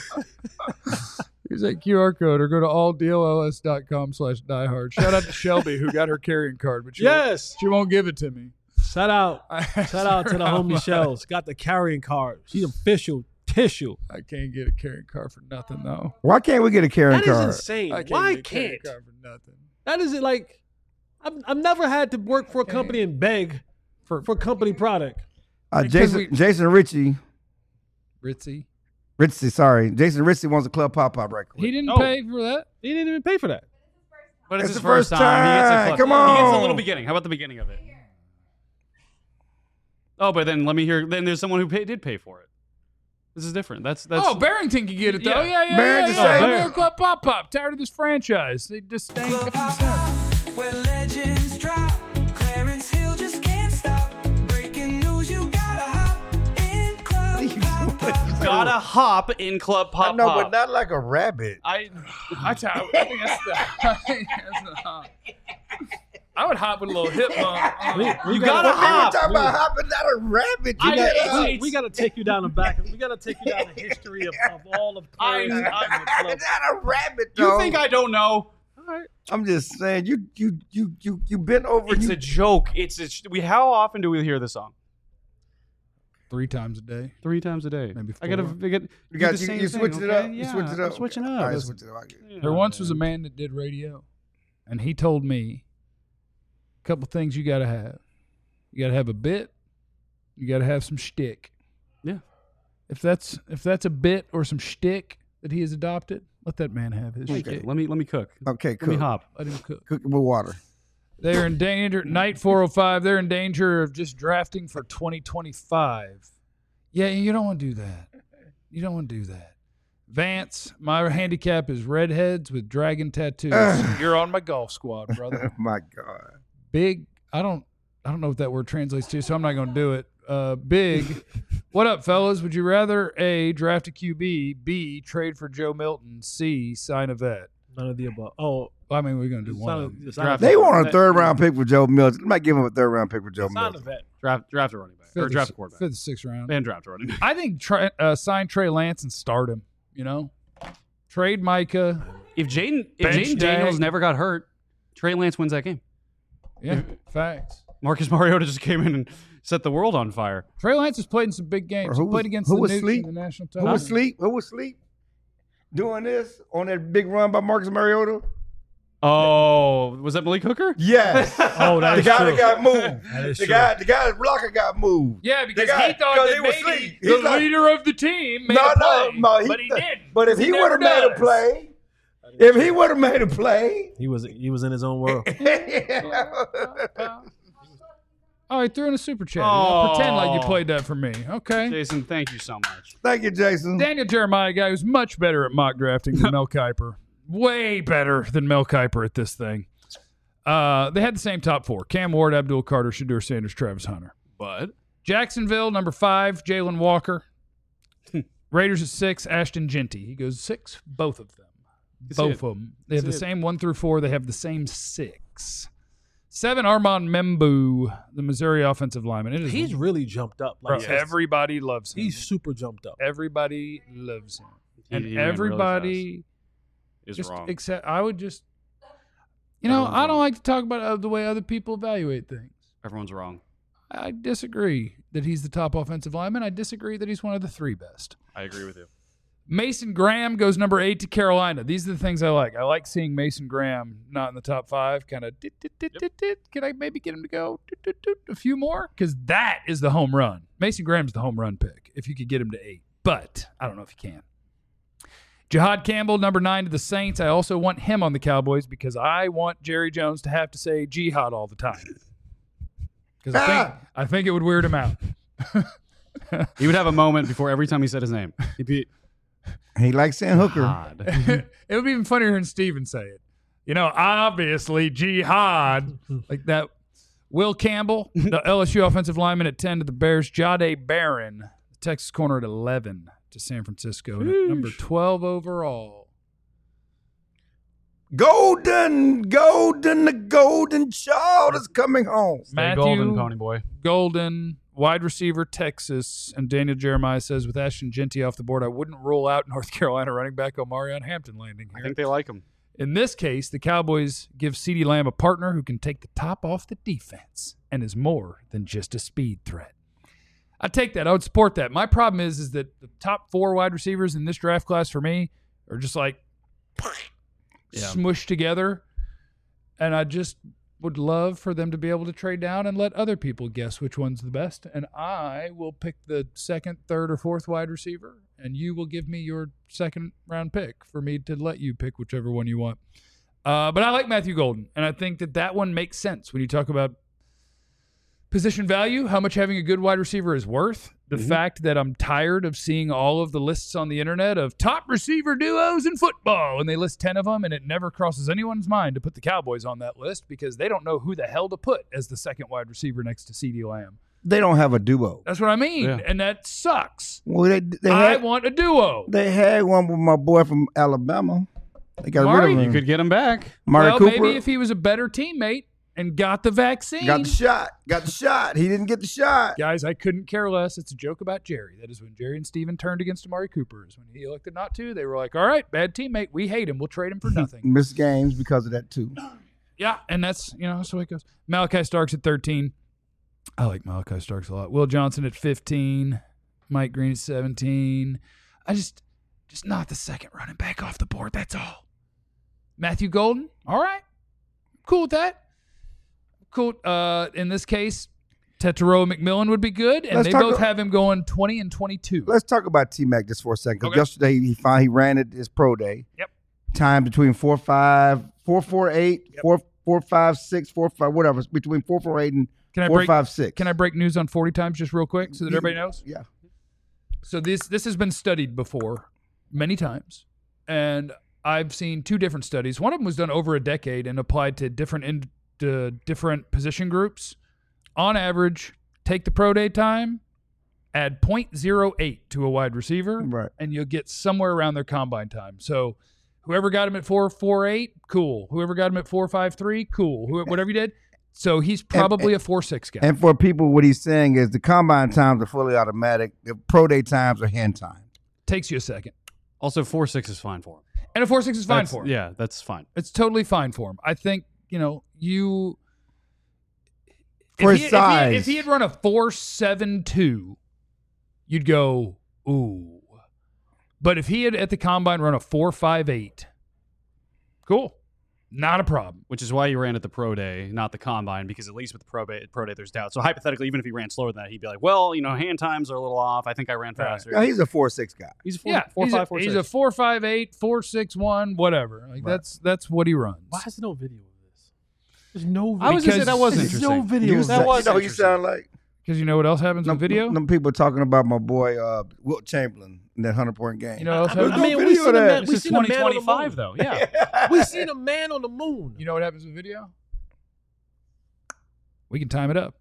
Use that Q R code or go to all D L L S dot com slash diehard. Shout out to Shelby who got her carrying card, but she, won't, Yes. she won't give it to me. Shout out. I asked Shout out to her the how homie much. Shells. Got the carrying card. She's official tissue. I can't get a carrying card for nothing though. Why can't we get a carrying That is card? insane. I can't Why get a carrying can't? card for nothing. That is it like I've, I've never had to work for a company and beg for, for company product. Uh, Because Jason we- Jason Ritchie, Ritzy. Ritchie, sorry, Jason Ritchie wants a club pop pop record. He didn't Oh. pay for that. He didn't even pay for that. But it's, It's his the first first time. He gets a time. club. Come He gets a on. little beginning. How about the beginning of it? Oh, but then let me hear. Then there's someone who pay, did pay for it. This is different. That's that's. Oh, Barrington can get it though. Yeah. Yeah, yeah, Barrington yeah. yeah. said- yeah. Club Pop Pop. Tired of this franchise. They just ain't Club got Hop Hop, where legends drop. Clarence Hill just can't stop. Breaking news, you gotta hop in Club Hop Hop. gotta hop in Club Pop I know, Pop. but not like a rabbit. I. I, t- I think that's the. I think that's the hop. I would hop with a little hip bump. Uh, We, we You gotta, gotta We were hop. talking about hopping, not a rabbit. You I- gotta it's- hop. we, we gotta take you down the back. We gotta take you down the history of, of all of I- Clarence I- and the club. not a rabbit. You though. think I don't know? I'm just saying. You you you you you bent over. It's you, a joke. It's a. sh- We. How often do we hear this song? Three times a day. Three times a day. Maybe I gotta. four. I get. you do got the you, same you thing, switching it okay? up. You Yeah, switching it I'm up. switching Okay. up. All right, Listen. switch it up. I get it. Yeah, There once was a man. man that did radio, and he told me a couple things you got to have. You got to have a bit. You got to have some shtick. Yeah. If that's if that's a bit or some shtick that he has adopted, let that man have his Okay, shtick. let me let me cook. Okay, Let me cook. hop. Let him cook. Cook it with water. They're in danger. Night four oh five. They're in danger of just drafting for twenty twenty-five. Yeah, you don't want to do that. You don't want to do that. Vance, my handicap is redheads with dragon tattoos. You're on my golf squad, brother. Oh my God. Big. I don't. I don't know what that word translates to, so I'm not going to do it. Uh, big. What up, fellas? Would you rather A, draft a Q B, B, trade for Joe Milton, C, sign a vet? None of the above. Oh, Well, I mean, we're going to do it's one. not of a, them. it's not Draft- a, They want a That- third round pick for Joe Milton. I might give him a third round pick for Joe it's not a Milton. vet. Draft draft a running back or Fifth, draft a or, quarterback. fifth, sixth round. And draft a running back. I think try, uh, sign Trey Lance and start him. You know, trade Micah. If Jaden if Bench Jaden tag. Daniels never got hurt, Trey Lance wins that game. Yeah, facts. Marcus Mariota just came in and set the world on fire. Trey Lance has played in some big games. Or He who was- played against who the was Nukes asleep? in the national Who title. was asleep? Who was asleep? Doing this on that big run by Marcus Mariota? Oh, was that Malik Hooker? Yes. Oh, that the is guy true. that got moved. That is the true. guy, the guy's blocker got moved. Yeah, because The guy- he thought because that he was maybe asleep. the He's like- leader of the team made No, a no, play, no. He, but he didn't. But if he, He would have never made a does. play, if he would have made a play, He was he was in his own world. I Oh, he threw in a super chat. Oh. Pretend like you Oh. played that for me. Okay. Jason, thank you so much. Thank you, Jason. Daniel Jeremiah, a guy who's much better at mock drafting than Mel Kiper. Way better than Mel Kiper at this thing. Uh, they had the same top four. Cam Ward, Abdul Carter, Shedeur Sanders, Travis Hunter. But Jacksonville, number five, Jalen Walker. Raiders at six, Ashton Genty. He goes six, both of them. That's Both it. of them. They have That's the it. same one through four. They have the same six. Seven, Armand Membu, the Missouri offensive lineman. It is He's really jumped up. bro, Like everybody loves him. he's super jumped up. Everybody loves him. He- and he ran really everybody is just wrong. except I would just you know, Everyone's I don't wrong. like to talk about uh, the way other people evaluate things. Everyone's wrong. I disagree that he's the top offensive lineman. I disagree that he's one of the three best. I agree with you. Mason Graham goes number eight to Carolina. These are the things I like. I like seeing Mason Graham not in the top five. Kind of, can I maybe get him to go dit, dit, dit, a few more? Because that is the home run. Mason Graham's the home run pick if you could get him to eight. But I don't know if you can. Jihad Campbell, number nine to the Saints. I also want him on the Cowboys because I want Jerry Jones to have to say Jihad all the time. Because I think, I think it would weird him out. He would have a moment before every time he said his name. He'd be He likes saying hooker. God. It would be even funnier hearing Steven say it. You know, obviously, Jihad, like that. Will Campbell, the L S U offensive lineman at ten to the Bears. Jahdae Barron, the Texas corner at eleven to San Francisco. And at number twelve overall. Golden, golden, the golden child is coming home. Stay Matthew golden, pony boy. Golden, wide receiver, Texas. And Daniel Jeremiah says, with Ashton Genty off the board, I wouldn't rule out North Carolina running back Omarion Hampton landing I here. think they like him. In this case, the Cowboys give CeeDee Lamb a partner who can take the top off the defense and is more than just a speed threat. I'd take that. I would support that. My problem is, is that the top four wide receivers in this draft class for me are just like Yeah. smushed together. And I just would love for them to be able to trade down and let other people guess which one's the best. And I will pick the second, third, or fourth wide receiver, and you will give me your second round pick for me to let you pick whichever one you want. Uh, but I like Matthew Golden, and I think that that one makes sense when you talk about position value, how much having a good wide receiver is worth. The Mm-hmm. fact that I'm tired of seeing all of the lists on the internet of top receiver duos in football, and they list ten of them, and it never crosses anyone's mind to put the Cowboys on that list because they don't know who the hell to put as the second wide receiver next to CeeDee Lamb. They don't have a duo. That's what I mean, Yeah. and that sucks. Well, they they I had, want a duo. they had one with my boy from Alabama. They got Mari, rid of You him. could get him back. Mari well, Cooper maybe if he was a better teammate and got the vaccine. got the shot. Got the shot. He didn't get the shot. Guys, I couldn't care less. It's a joke about Jerry. That is when Jerry and Steven turned against Amari Cooper. Is when he elected not to. They were like, all right, bad teammate. We hate him. We'll trade him for nothing. Missed games because of that too. Yeah, and that's, you know, that's the way it goes. Malachi Starks at thirteen. I like Malachi Starks a lot. Will Johnson at fifteen. Mike Green at seventeen. I just, just not the second running back off the board. That's all. Matthew Golden. All right. Cool with that. Cool. Uh, in this case, Tetairoa McMillan would be good, and Let's they talk both a- have him going twenty and twenty-two. Let's talk about T Mac just for a second. 'Cause Okay. yesterday he found he ran it his pro day. Yep. Time between four five, four four eight, Yep. four four five six, four five, whatever. It's between four four eight and Can I four break? five six. Can I break news on forty times just real quick so that everybody knows? Yeah. So this this has been studied before many times, and I've seen two different studies. One of them was done over a decade and applied to different in, to different position groups. On average, take the pro day time, add zero point zero eight to a wide receiver, Right. and you'll get somewhere around their combine time. So whoever got him at four four eight, cool. Whoever got him at four five three, cool. Who, whatever you did. So he's probably a four six guy. And for people, what he's saying is the combine times are fully automatic. The pro day times are hand timed. Takes you a second. Also, four six is fine for him. And a four six is fine That's- for him. Yeah, that's fine. It's totally fine for him. I think, you know, you For if, his he, if, he, size. if he had run a four seven two, you'd go, ooh. But if he had at the combine run a four five eight, cool. Not a problem. Which is why you ran at the pro day, not the combine, because at least with the pro day, pro day there's doubt. So hypothetically, even if he ran slower than that, he'd be like, well, you know, hand times are a little off. I think I ran faster. Yeah, he's a four six guy. He's a four, yeah, four he's, five, a, four he's six. a four five eight, four six one, whatever. Like Right. that's that's what he runs. Why is there no video of this? There's no. I was gonna say Because that was there's interesting. no video. You, of that sound- was you know who you interesting. sound like? Because you know what else happens Them, with video? them people talking about my boy uh, Wilt Chamberlain in that hundred point game. You know what else I, happens? I mean, no we video seen of a that. man. This We is seen a twenty man on the twenty-five, moon. though. Yeah. We seen a man on the moon. You know what happens with video? We can time it up.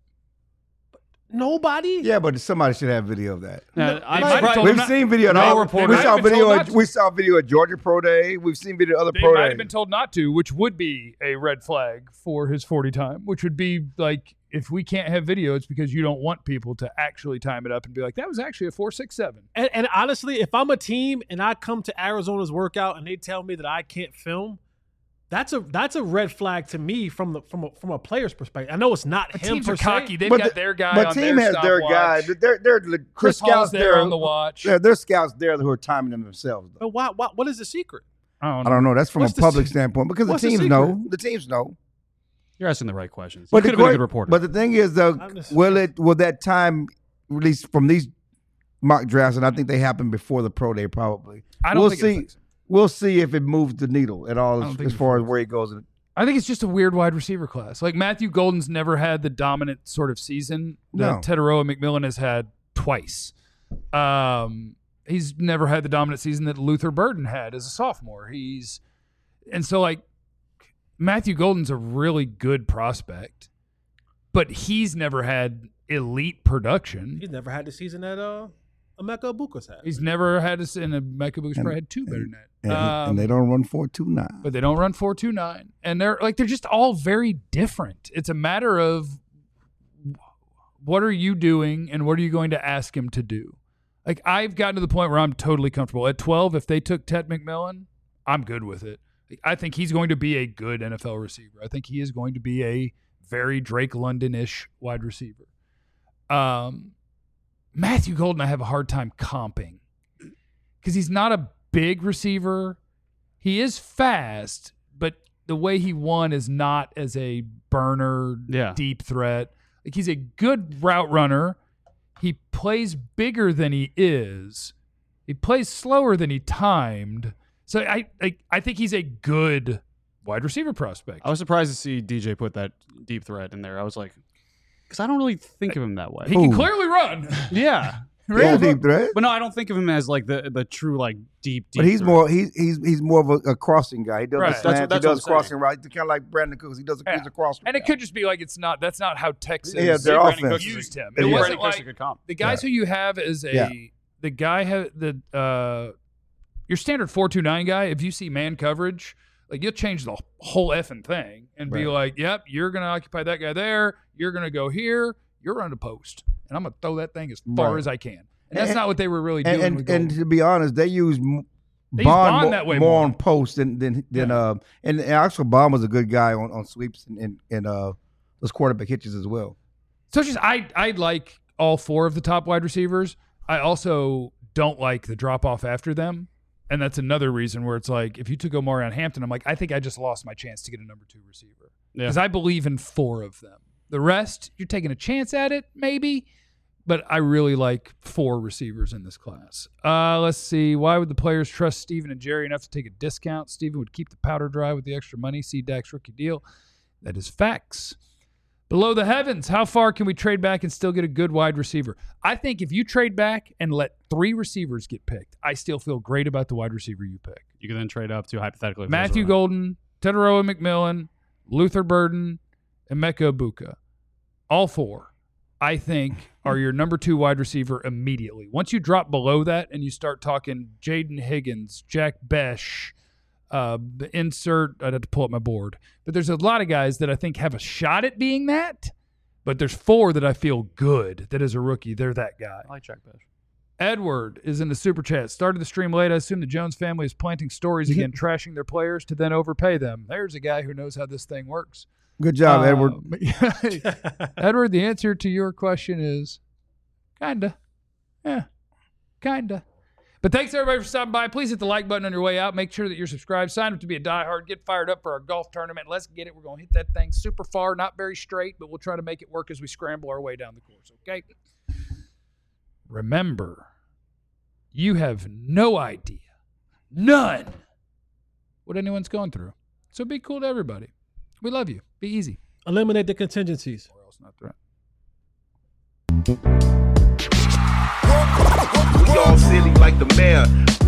Nobody. Yeah, but somebody should have video of that. Now, They I might have surprised- told We've him not- seen video. no of reporter- We They saw might have been video. told At, not we to. saw video at Georgia Pro Day. We've seen video of other They pro might days. have been told not to, which would be a red flag for his forty time, which would be like, if we can't have video, it's because you don't want people to actually time it up and be like, that was actually a four six seven. And, and honestly, if I'm a team and I come to Arizona's workout and they tell me that I can't film, that's a that's a red flag to me from the from a, from a player's perspective. I know it's not But him teams per are se. cocky. They've But got the- their guy But on team their has their guy. stopwatch. They're they're the Chris scouts Paul's there there on the watch. Yeah, there's scouts there who are timing them themselves. Though. But why, why? What is the secret? I don't I know. don't know. That's from What's a the public se- standpoint because the what's the teams secret? know. The teams know. You're asking the right questions. But you the could have been a que- good reporter. But the thing is, though, I'm just- will it will that time release from these mock drafts? And I think they happen before the pro day, probably. I don't we'll think it see. affects him. We'll see if it moves the needle at all I don't as, think as it far as affects where he goes. I think it's just a weird wide receiver class. Like Matthew Golden's never had the dominant sort of season that No. Teteroa McMillan has had twice. Um, he's never had the dominant season that Luther Burden had as a sophomore. He's and so like Matthew Golden's a really good prospect, but he's never had elite production. He's never had the season that uh, Emeka Buka's had. He's never had a and a Mecca Books probably had two better than that. And, Um, and they don't run four two nine. but they don't run four two nine, and they're like they're just all very different. It's a matter of what are you doing and what are you going to ask him to do. Like I've gotten to the point where I'm totally comfortable at twelve. If they took Ted McMillan, I'm good with it. I think he's going to be a good N F L receiver. I think he is going to be a very Drake London-ish wide receiver. Um, Matthew Golden, I have a hard time comping because he's not a big receiver. He is fast, but the way he won is not as a burner, Yeah. deep threat. Like he's a good route runner. He plays bigger than he is. He plays slower than he timed. So I, I, I think he's a good wide receiver prospect. I was surprised to see D J put that deep threat in there. I was like, because I don't really think of him that way. He can Ooh. clearly run. yeah. Yeah, deep threat. But no, I don't think of him as like the the true like deep deep. But he's threat. more he's he's he's more of a, a crossing guy. He does Right. the That's what- slant, that's he what does I'm crossing right. Kind of like Brandon Cooks. He does a, Yeah. he's a crosser. And it guy. could just be like it's not. That's not how Texas Yeah, their Brandon offense. Cooks used him. Yeah. It Brandon wasn't Cooks is like a good comp. the guys Yeah. who you have as a Yeah. the guy ha, the uh your standard four two nine guy. If you see man coverage, like you'll change the whole effing thing and be Right. like, "Yep, you're gonna occupy that guy there. You're gonna go here. You're running a post, and I'm gonna throw that thing as far Right. as I can." And that's And- not what they were really doing. and with and, and Golden. to be honest, they use m- They use Bond, Bond more, that way more more. on post than than than Yeah. uh and, and actually Bond was a good guy on, on sweeps and, and and uh those quarterback hitches as well. So it's just I I like all four of the top wide receivers. I also don't like the drop off after them. And that's another reason where it's like if you took Omarion Hampton, I'm like, I think I just lost my chance to get a number two receiver. Yeah. Because I believe in four of them. The rest, you're taking a chance at it, maybe. But I really like four receivers in this class. Uh, let's see. Why would the players trust Steven and Jerry enough to take a discount? Steven would keep the powder dry with the extra money. See Dak's rookie deal. That is facts. Below the heavens, how far can we trade back and still get a good wide receiver? I think if you trade back and let three receivers get picked, I still feel great about the wide receiver you pick. You can then trade up to hypothetically if there's Matthew a- Golden, Teteroa McMillan, Luther Burden, and Emeka Buka. All four, I think, are your number two wide receiver immediately. Once you drop below that and you start talking Jaden Higgins, Jack Besh, uh, insert, I'd have to pull up my board. But there's a lot of guys that I think have a shot at being that. But there's four that I feel good that as a rookie, they're that guy. I like Jack Besh. Edward is in the super chat. Started the stream late. I assume the Jones family is planting stories again, trashing their players to then overpay them. There's a guy who knows how this thing works. Good job, Edward. Um, Edward, the answer to your question is kinda. Yeah, kinda. But thanks everybody for stopping by. Please hit the like button on your way out. Make sure that you're subscribed. Sign up to be a diehard. Get fired up for our golf tournament. Let's get it. We're going to hit that thing super far, not very straight, but we'll try to make it work as we scramble our way down the course, okay? Remember, you have no idea, none, what anyone's going through. So be cool to everybody. We love you. Be easy. Eliminate the contingencies. Or else not threat. Y'all silly like the mayor.